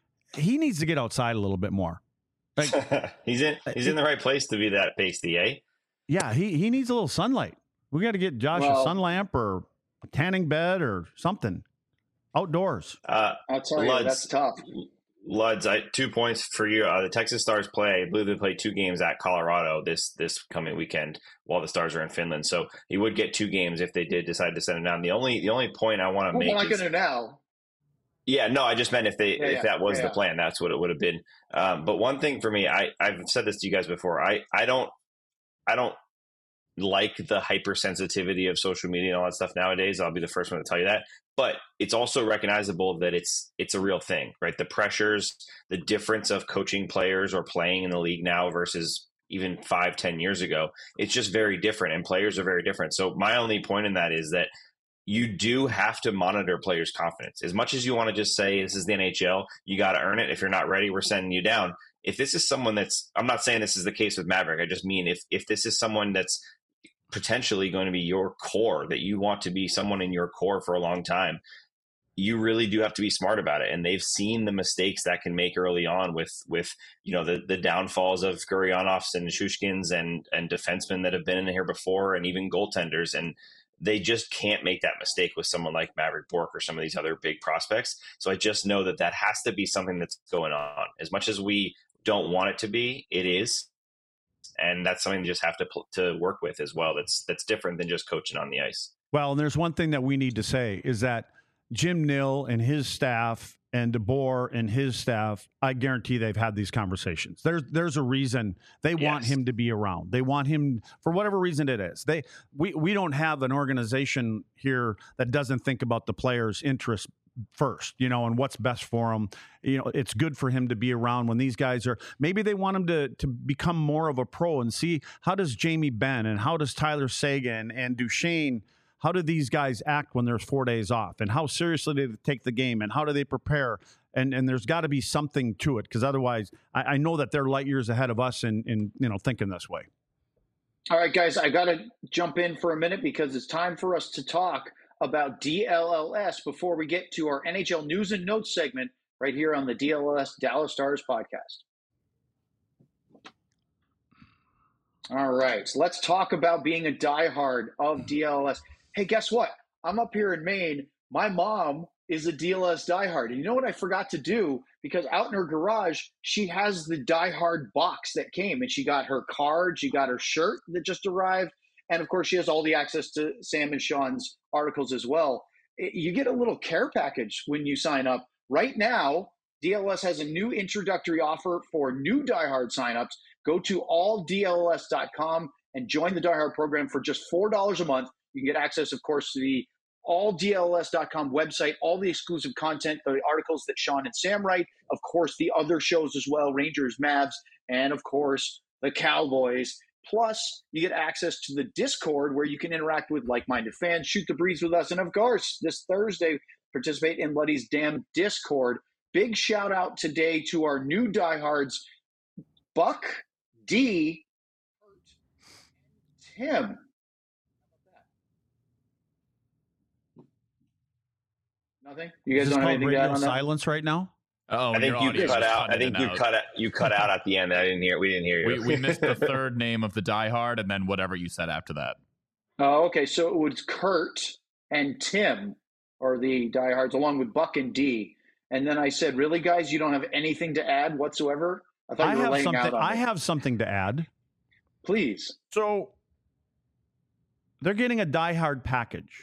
He needs to get outside a little bit more. Like, he's in he's in the right place to be that pasty, eh? yeah, he he needs a little sunlight. We got to get Josh Well- a sun lamp or a tanning bed or something outdoors. Uh, I'll tell you, Luds. that's tough. Luds, I, two points for you. Uh, the Texas Stars play. I believe they play two games at Colorado this this coming weekend while the Stars are in Finland. So he would get two games if they did decide to send him down. The only the only point I want to Well, make we're not is, going to now. yeah, no, I just meant if they Yeah, if yeah, that was yeah, the yeah. plan, that's what it would have been. Um, but one thing for me, I I've said this to you guys before. I I don't I don't like the hypersensitivity of social media and all that stuff nowadays. I'll be the first one to tell you that. But it's also recognizable that it's it's a real thing, right? The pressures, the difference of coaching players or playing in the league now versus even five, ten years ago, it's just very different, and players are very different. So my only point in that is that you do have to monitor players' confidence. As much as you want to just say this is the N H L, you got to earn it. If you're not ready, we're sending you down. If this is someone that's, I'm not saying this is the case with Maverick. I just mean if if this is someone that's potentially going to be your core, that you want to be someone in your core for a long time, you really do have to be smart about it. And they've seen the mistakes that can make early on with, with, you know, the, the downfalls of Guryanovs and Shushkins and, and defensemen that have been in here before, and even goaltenders. And they just can't make that mistake with someone like Maverick Bourque or some of these other big prospects. So I just know that that has to be something that's going on. As much as we don't want it to be, it is. And that's something you just have to pl- to work with as well. That's that's different than just coaching on the ice. Well, and there's one thing that we need to say is that Jim Nill and his staff and DeBoer and his staff, I guarantee they've had these conversations. There's there's a reason they want Yes. him to be around. They want him for whatever reason it is. They we we don't have an organization here that doesn't think about the players' interests first, you know, and what's best for him. You know, it's good for him to be around when these guys are, maybe they want him to to become more of a pro and see how does Jamie Benn and how does Tyler Seguin and Duchesne, how do these guys act when there's four days off, and how seriously do they take the game, and how do they prepare? And and there's got to be something to it, because otherwise I, I know that they're light years ahead of us in, in, you know, thinking this way. All right, guys, I got to jump in for a minute because it's time for us to talk about D L L S before we get to our N H L news and notes segment right here on the D L L S Dallas Stars podcast. All right, so let's talk about being a diehard of D L L S. Hey, guess what? I'm up here in Maine. My mom is a D L L S diehard. And you know what I forgot to do? Because out in her garage, she has the diehard box that came, and she got her card, she got her shirt that just arrived, and of course, she has all the access to Sam and Sean's articles as well. You get a little care package when you sign up. Right now, D L S has a new introductory offer for new diehard signups. Go to all D L S dot com and join the diehard program for just four dollars a month. You can get access, of course, to the all D L S dot com website, all the exclusive content, the articles that Sean and Sam write, of course, the other shows as well, Rangers, Mavs, and of course, the Cowboys. Plus, you get access to the Discord where you can interact with like-minded fans, shoot the breeze with us, and of course, this Thursday, participate in Luddy's Damn Discord. Big shout out today to our new diehards, Buck, D, and Tim. Nothing? You guys Is this don't have called anything to radio add on that? silence right now? Oh, I think your you audio cut was out. I cutting think in you and cut out. You cut out at the end. I didn't hear. We didn't hear you. We, we missed the third name of the diehard, and then whatever you said after that. Oh, okay. So it was Kurt and Tim are the diehards, along with Buck and D. And then I said, "Really, guys, you don't have anything to add whatsoever?" I thought I you were have laying something. out on I me. have something to add. Please. So they're getting a diehard package.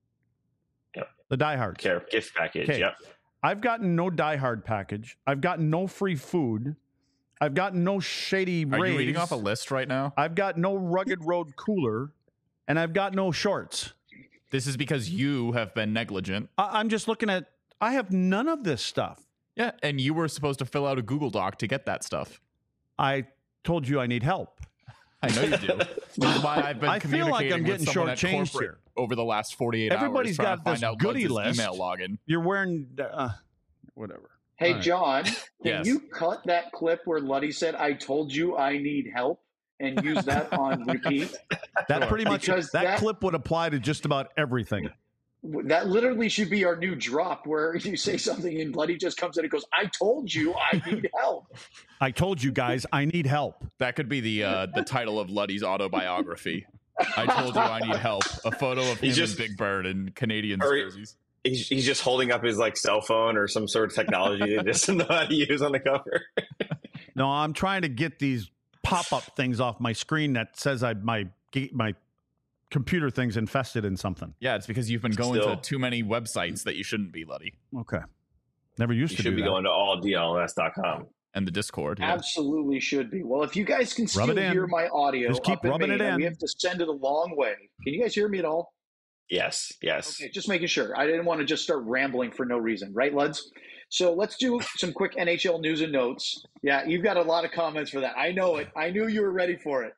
Yep. The diehard Care gift package. Okay. Yep. I've gotten no diehard package. I've gotten no free food. I've gotten no shady Are rays. you reading off a list right now? I've got no rugged road cooler, and I've got no shorts. This is because you have been negligent. I- I'm just looking at. I have none of this stuff. Yeah, and you were supposed to fill out a Google Doc to get that stuff. I told you I need help. I know you do. Which is why I've been I feel like I'm communicating with getting someone at shortchanged corporate here. over the last forty-eight Everybody's hours. trying got to find this out goodie Lutz's list. email login. You're wearing uh, whatever. Hey, All right. John, can Yes. you cut that clip where Luddy said, "I told you I need help," and use that on repeat? That pretty much Because that, that- clip would apply to just about everything. That literally should be our new drop, where you say something and Luddy just comes in and goes, "I told you I need help." I told you guys I need help. That could be the uh, the title of Luddy's autobiography. I told you I need help. A photo of him He's just- and Big Bird in Canadian Or- jerseys. He's, he's just holding up his like cell phone or some sort of technology that doesn't know how to use on the cover. No, I'm trying to get these pop-up things off my screen that says I my my computer thing's infested in something. Yeah, it's because you've been going Still. to too many websites that you shouldn't be, Luddy. Okay. Never used You to should do be that. going to all D L S dot com. And the Discord. Yeah. Absolutely should be. Well, if you guys can Rub still it in. hear my audio, Just keep up in rubbing Maine, it in. We have to send it a long way. Can you guys hear me at all? Yes, yes. Okay, just making sure. I didn't want to just start rambling for no reason, right, Luds? So let's do some quick N H L news and notes. Yeah, you've got a lot of comments for that. I know it. I knew you were ready for it.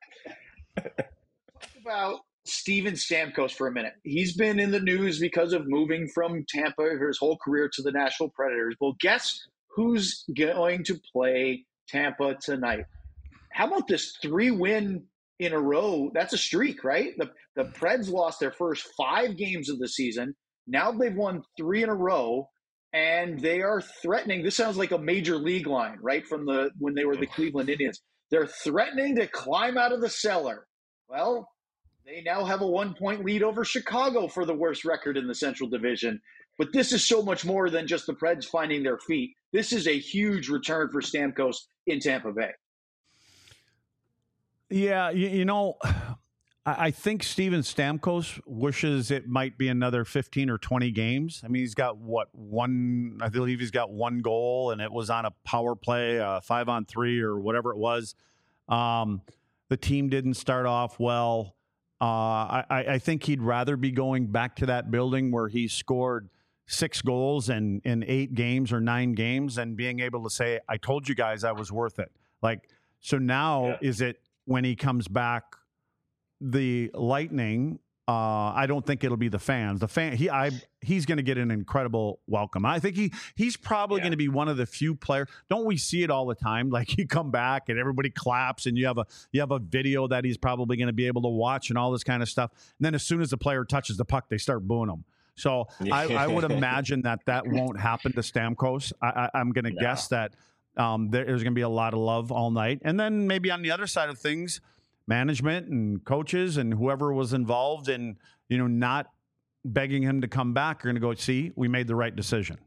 Talk about Steven Stamkos for a minute. He's been in the news because of moving from Tampa for his whole career to the Nashville Predators. Well, guess who's going to play Tampa tonight? How about this three win in a row? That's a streak, right? The the Preds lost their first five games of the season. Now they've won three in a row, and they are threatening. This sounds like a major league line, right? From the when they were the Cleveland Indians. They're threatening to climb out of the cellar. Well, they now have a one-point lead over Chicago for the worst record in the Central Division. But this is so much more than just the Preds finding their feet. This is a huge return for Stamkos in Tampa Bay. Yeah, you, you know, I, I think Steven Stamkos wishes it might be another fifteen or twenty games. I mean, he's got what one? I believe he's got one goal, and it was on a power play, uh, five on three or whatever it was. Um, the team didn't start off well. Uh, I, I think he'd rather be going back to that building where he scored six goals in, in eight games or nine games and being able to say, I told you guys I was worth it. Like, so now Yeah. is it when he comes back, the Lightning, uh, I don't think it'll be the fans. The fan, he, I, he's going to get an incredible welcome. I think he, he's probably Yeah. going to be one of the few players. Don't we see it all the time? Like you come back and everybody claps, and you have a, you have a video that he's probably going to be able to watch and all this kind of stuff. And then as soon as the player touches the puck, they start booing him. So I, I would imagine that that won't happen to Stamkos. I, I, I'm going to No. guess that um, there- there's going to be a lot of love all night, and then maybe on the other side of things, management and coaches and whoever was involved in, you know, not begging him to come back are going to go, see, we made the right decision.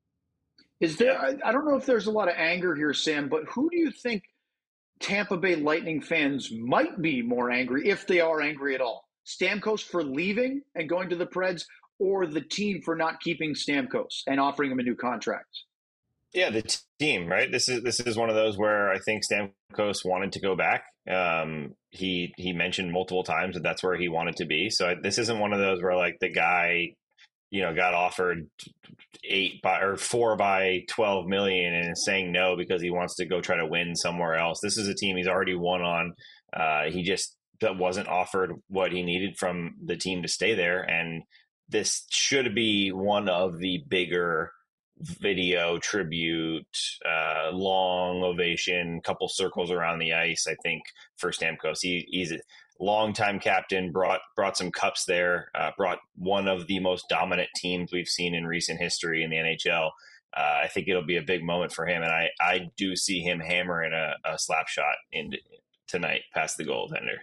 Is there, I, I don't know if there's a lot of anger here, Sam, but who do you think Tampa Bay Lightning fans might be more angry, if they are angry at all? Stamkos for leaving and going to the Preds, or the team for not keeping Stamkos and offering him a new contract? Yeah, the t- team, right? This is this is one of those where I think Stamkos wanted to go back. Um, he he mentioned multiple times that that's where he wanted to be. So I, this isn't one of those where like the guy, you know, got offered eight by or four by twelve million and is saying no because he wants to go try to win somewhere else. This is a team he's already won on. Uh, he just that wasn't offered what he needed from the team to stay there, and this should be one of the bigger video tribute, uh, long ovation, couple circles around the ice. I think for Stamkos, he, he's a longtime captain, brought brought some cups there, uh, brought one of the most dominant teams we've seen in recent history in the N H L uh, I think it'll be a big moment for him. And I, I do see him hammering a, a slap shot in tonight past the goaltender.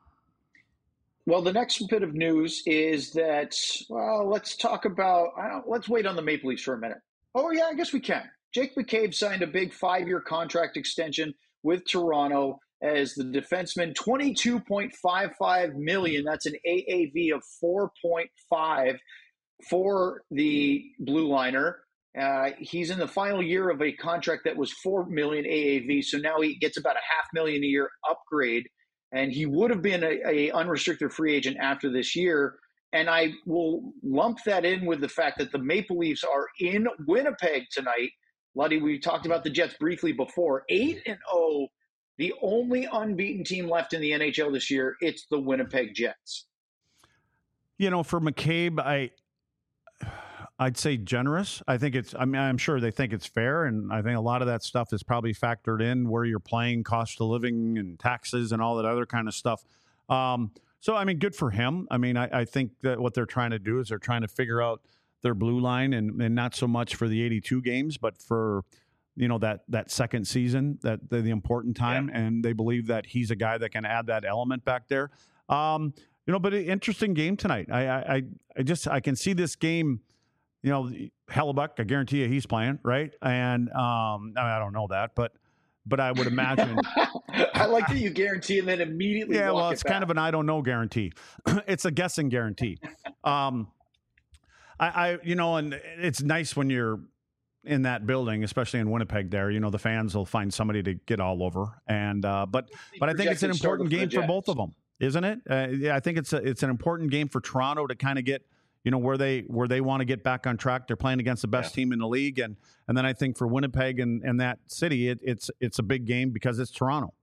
Well, the next bit of news is that, well, let's talk about, I don't, let's wait on the Maple Leafs for a minute. Oh, yeah, I guess we can. Jake McCabe signed a big five-year contract extension with Toronto as the defenseman, twenty-two point five five million dollars. That's an A A V of four point five for the blue liner. Uh, he's in the final year of a contract that was four million dollars A A V, so now he gets about a half million a year upgrade. And he would have been a, a unrestricted free agent after this year. And I will lump that in with the fact that the Maple Leafs are in Winnipeg tonight. Luddy, we talked about the Jets briefly before. eight and oh, the only unbeaten team left in the N H L this year, it's the Winnipeg Jets. You know, for McCabe, I, I'd say generous. I think it's, I mean, I'm sure they think it's fair. And I think a lot of that stuff is probably factored in where you're playing, cost of living and taxes and all that other kind of stuff. Um, so, I mean, good for him. I mean, I, I think that what they're trying to do is they're trying to figure out their blue line and, and not so much for the eighty-two games, but for, you know, that, that second season, that the, the important time. Yeah. And they believe that he's a guy that can add that element back there. Um, you know, but an interesting game tonight. I, I, I just, I can see this game. You know, Hellebuck, I guarantee you he's playing, right? And um, I, mean, I don't know that, but but I would imagine. I like that you guarantee and then immediately. Yeah, walk well, it it's back. kind of an I don't know guarantee. It's a guessing guarantee. um, I, I, you know, and it's nice when you're in that building, especially in Winnipeg. There, you know, the fans will find somebody to get all over. And uh, but but I think it's an important game for both of them, isn't it? Uh, yeah, I think it's a, it's an important game for Toronto to kind of get. You know, where they where they want to get back on track. They're playing against the best yeah. team in the league. And and then I think for Winnipeg and, and that city, it, it's it's a big game because it's Toronto.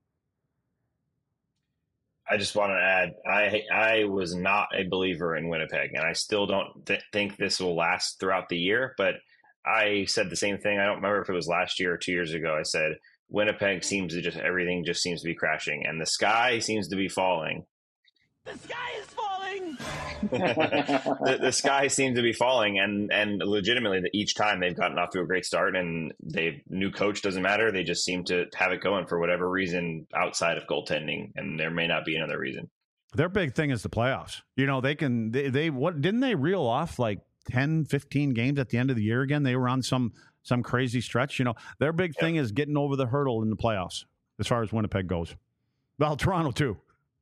I just want to add, I I was not a believer in Winnipeg, and I still don't th- think this will last throughout the year. But I said the same thing. I don't remember if it was last year or two years ago. I said, Winnipeg seems to just, everything just seems to be crashing, and the sky seems to be falling. The sky is falling. the, the sky seems to be falling, and and legitimately, each time they've gotten off to a great start, and they new coach doesn't matter. They just seem to have it going for whatever reason outside of goaltending, and there may not be another reason. Their big thing is the playoffs. You know, they can they, they what didn't they reel off like ten, fifteen games at the end of the year again? They were on some some crazy stretch. You know, their big yep. thing is getting over the hurdle in the playoffs as far as Winnipeg goes. Well, Toronto too.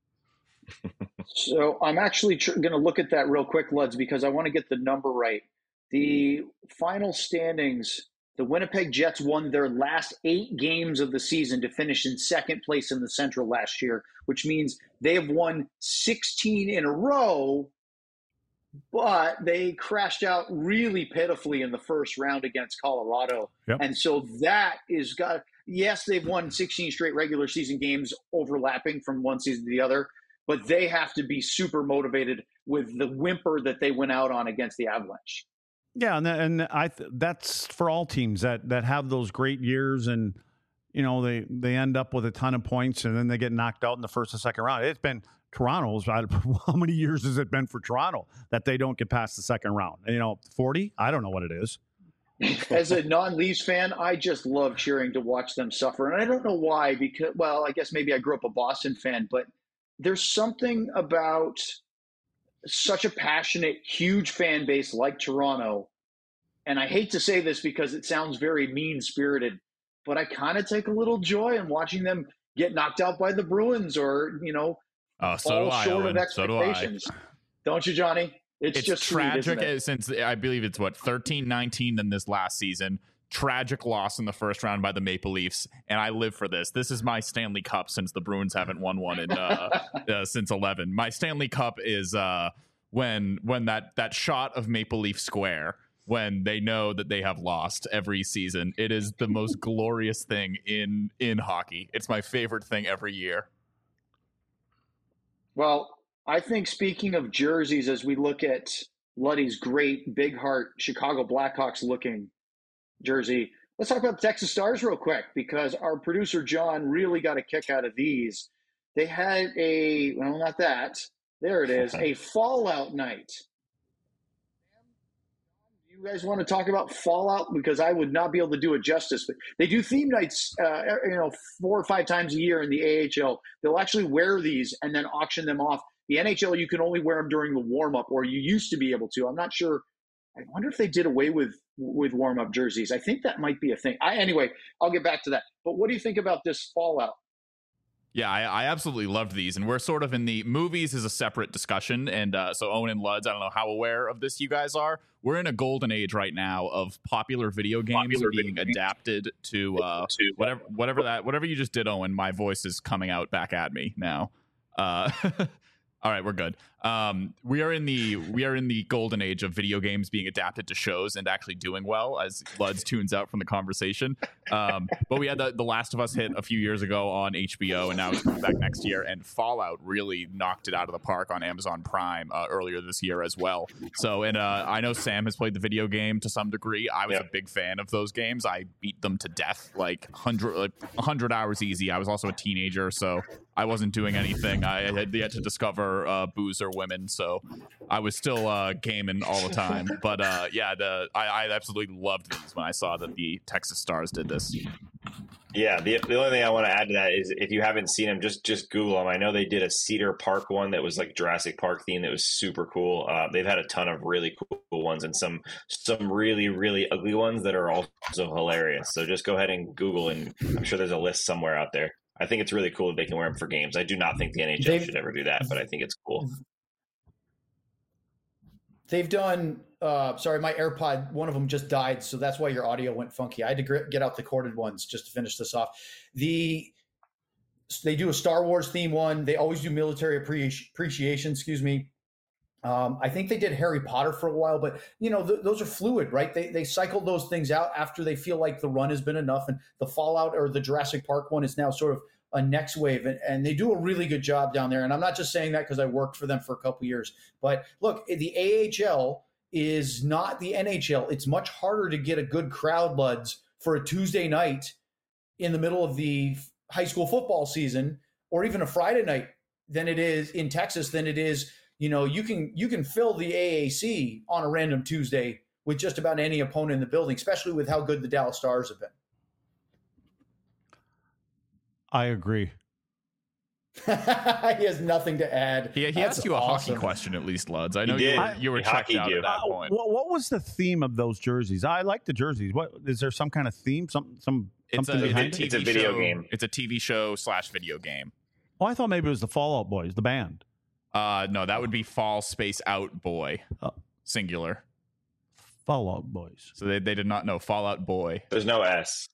So I'm actually tr- going to look at that real quick, Luds, because I want to get the number right. The final standings, the Winnipeg Jets won their last eight games of the season to finish in second place in the Central last year, which means they have won sixteen in a row, but they crashed out really pitifully in the first round against Colorado. Yep. And so that is got, yes, they've won sixteen straight regular season games overlapping from one season to the other, but they have to be super motivated with the whimper that they went out on against the Avalanche. Yeah, and and I that's for all teams that that have those great years, and you know they they end up with a ton of points, and then they get knocked out in the first and second round. It's been Toronto's. How many years has it been for Toronto that they don't get past the second round? You know, forty? I don't know what it is. As a non-Leafs fan, I just love cheering to watch them suffer, and I don't know why. Because, well, I guess maybe I grew up a Boston fan, but there's something about such a passionate, huge fan base like Toronto. And I hate to say this because it sounds very mean-spirited, but I kind of take a little joy in watching them get knocked out by the Bruins or, you know, oh, so fall do I, short Owen. of expectations. So do Don't you, Johnny? It's, it's just tragic sweet, it? since I believe it's what thirteen nineteen in this last season. Tragic loss in the first round by the Maple Leafs, and I live for this. This is my Stanley Cup since the Bruins haven't won one in uh, uh, since eleven. My Stanley Cup is uh, when when that that shot of Maple Leaf Square when they know that they have lost every season. It is the most glorious thing in in hockey. It's my favorite thing every year. Well, I think speaking of jerseys, as we look at Luddy's great big heart Chicago Blackhawks looking jersey, let's talk about the Texas Stars real quick, because our producer John really got a kick out of these. They had a, well, not that. There it is, a Fallout night. You guys want to talk about Fallout? Because I would not be able to do it justice. But they do theme nights, uh, you know, four or five times a year in the A H L. They'll actually wear these and then auction them off. The N H L, you can only wear them during the warm up, or you used to be able to. I'm not sure. I wonder if they did away with with warm up jerseys. I think that might be a thing. I, anyway, I'll get back to that. But what do you think about this Fallout? Yeah, I, I absolutely loved these, and we're sort of in the movies is a separate discussion. And uh, so Owen and Luds, I don't know how aware of this you guys are. We're in a golden age right now of popular video games popular being video adapted to uh, whatever whatever that whatever you just did, Owen. My voice is coming out back at me now. Uh, all right, we're good. Um, we are in the we are in the golden age of video games being adapted to shows and actually doing well, as Luds tunes out from the conversation. Um, but we had the, the Last of Us hit a few years ago on H B O, and now it's coming back next year. And Fallout really knocked it out of the park on Amazon Prime uh, earlier this year as well. So, and uh, I know Sam has played the video game to some degree. I was yep. a big fan of those games. I beat them to death, like hundred like one hundred hours easy. I was also a teenager, so I wasn't doing anything. I had yet to discover uh, booze or women, so I was still uh, gaming all the time. But uh, yeah, the I, I absolutely loved these when I saw that the Texas Stars did this. Yeah, the, the only thing I want to add to that is if you haven't seen them, just just Google them. I know they did a Cedar Park one that was like Jurassic Park themed that was super cool. Uh, they've had a ton of really cool ones and some some really, really ugly ones that are also hilarious. So just go ahead and Google, and I'm sure there's a list somewhere out there. I think it's really cool that they can wear them for games. I do not think the N H L they've, should ever do that, but I think it's cool. They've done, uh, sorry, my AirPod, one of them just died, so that's why your audio went funky. I had to get out the corded ones just to finish this off. The They do a Star Wars theme one. They always do military appreci- appreciation, excuse me. Um, I think they did Harry Potter for a while, but, you know, th- those are fluid, right? They they cycle those things out after they feel like the run has been enough, and the Fallout or the Jurassic Park one is now sort of a next wave, and, and they do a really good job down there. And I'm not just saying that because I worked for them for a couple of years, but look, the A H L is not the N H L. It's much harder to get a good crowd, Luds, for a Tuesday night in the middle of the high school football season, or even a Friday night than it is in Texas than it is. You know, you can you can fill the A A C on a random Tuesday with just about any opponent in the building, especially with how good the Dallas Stars have been. I agree. He has nothing to add. He, he asked you a awesome. hockey question, at least, Luds. I know you, you were, you were checked out you. at that point. Uh, what, what was the theme of those jerseys? I like the jerseys. What is there some kind of theme? Some some it's something a, behind it's it? It's a video show, game. It's a T V show slash video game. Oh, I thought maybe it was the Fallout Boys, the band. Uh, no, that would be Fall Space Out Boy, oh. singular. Fallout Boys. So they, they did not know Fallout Boy. There's no S.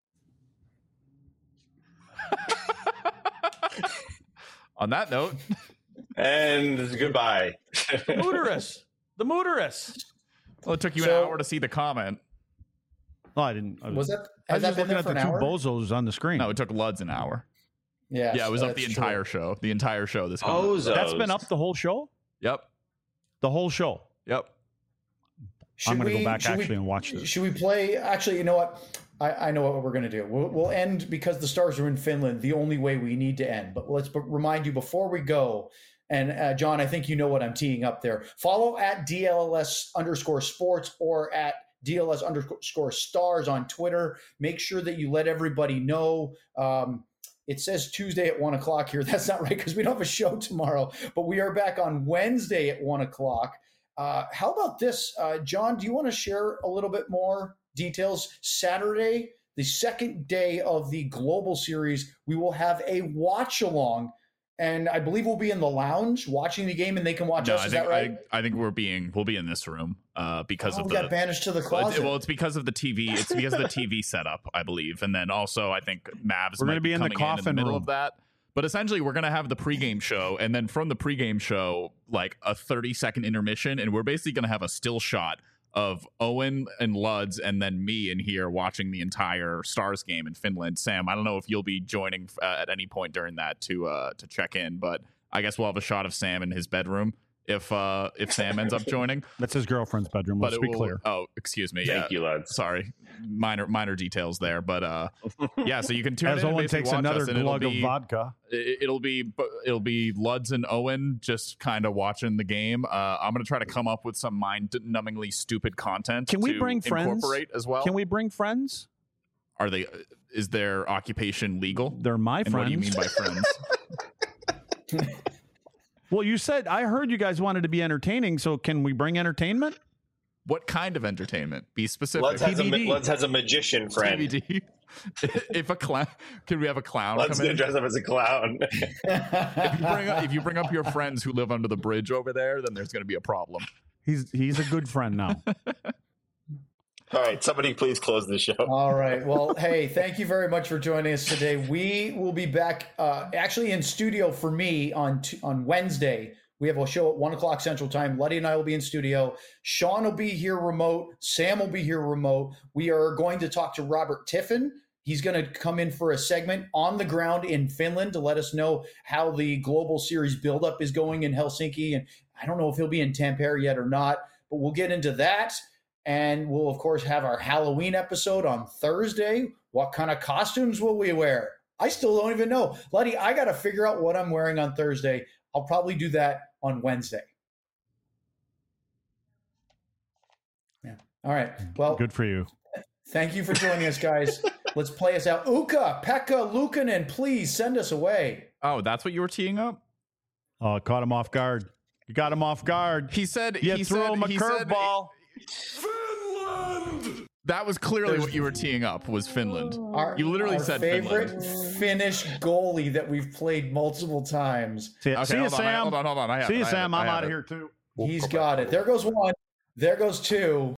On that note, and goodbye. The Mooterus. The Mooterus. Well, it took you So- an hour to see the comment. Oh, I didn't. I was, Was that? I was Has that just been looking there at for the an two hour? bozos on the screen. No, it took Luds an hour. Yeah, Yeah, it was up the that's entire true. show. The entire show. This comment. Bozos. That's been up the whole show. Yep. The whole show. Yep. Should I'm going to we- go back should we- actually and watch this. Should we play? Actually, you know what? I, I know what we're going to do. We'll, we'll end because the Stars are in Finland. The only way we need to end. But let's b- remind you before we go. And uh, John, I think you know what I'm teeing up there. Follow at D L S underscore sports or at D L S underscore stars on Twitter. Make sure that you let everybody know. Um, it says Tuesday at one o'clock here. That's not right because we don't have a show tomorrow. But we are back on Wednesday at one o'clock. Uh, how about this? Uh, John, do you want to share a little bit more details? Saturday, the second day of the Global Series, we will have a watch-along. And I believe we'll be in the lounge watching the game, and they can watch No, us. I Is think, that right? I, I think we're being we'll be in this room uh, because Oh, of we the got banished to the well, closet. it's, well, it's because of the T V. It's because of the T V setup, I believe, and then also I think Mavs We're might gonna be in the coming in, in the coffin middle room. of that. But essentially, we're gonna have the pregame show, and then from the pregame show, like a thirty second intermission, and we're basically gonna have a still shot of Owen and Luds, and then me in here watching the entire Stars game in Finland. Sam, I don't know if you'll be joining uh, at any point during that to uh, to check in, but I guess we'll have a shot of Sam in his bedroom if uh if Sam ends up joining. That's his girlfriend's bedroom. Let's But it be will, clear. Oh, excuse me. Thank yeah. you, lads. Sorry, minor minor details there, but uh, yeah. So you can tune As in. and Owen basically takes watch another us, and it'll glug of be- vodka. it- It'll be it'll be Luds and Owen just kind of watching the game. Uh, I'm gonna try to come up with some mind-numbingly stupid content. Can we to bring friends? Incorporate as well. Can we bring friends? Are they? Is their occupation legal? They're my And friends. what do you mean by friends? Well, you said I heard you guys wanted to be entertaining, so can we bring entertainment? What kind of entertainment? Be specific. Luds has, a, T B D. ma- Luds has a magician friend. T B D. If a clown, can we have a clown Luds come gonna in? dress up as a clown. If you, bring up, if you bring up your friends who live under the bridge over there, then there's going to be a problem. He's he's a good friend now. All right, somebody please close the show. All right. Well, hey, thank you very much for joining us today. We will be back uh, actually in studio for me on t- on Wednesday. We have a show at one o'clock Central Time. Letty and I will be in studio. Sean will be here remote. Sam will be here remote. We are going to talk to Robert Tiffin. He's going to come in for a segment on the ground in Finland to let us know how the Global Series buildup is going in Helsinki. And I don't know if he'll be in Tampere yet or not, but we'll get into that. And we'll, of course, have our Halloween episode on Thursday. What kind of costumes will we wear? I still don't even know. Letty, I got to figure out what I'm wearing on Thursday. I'll probably do that on Wednesday. Yeah. All right. Well, Good for you. thank you for joining us, guys. Let's play us out. Uka, Pekka, Lukanen, please send us away. Oh, that's what you were teeing up? Oh, caught him off guard. You got him off guard. He said You he threw said, him a he said- curveball. That was clearly what you were teeing up was Finland. Our, You literally our said favorite Finland. Finnish goalie that we've played multiple times. See, Okay, see you, hold on, I- Sam. hold on, hold on. I have See it, you, I have Sam. it, I I'm have out of it. here too. He's got it. There goes one. There goes two.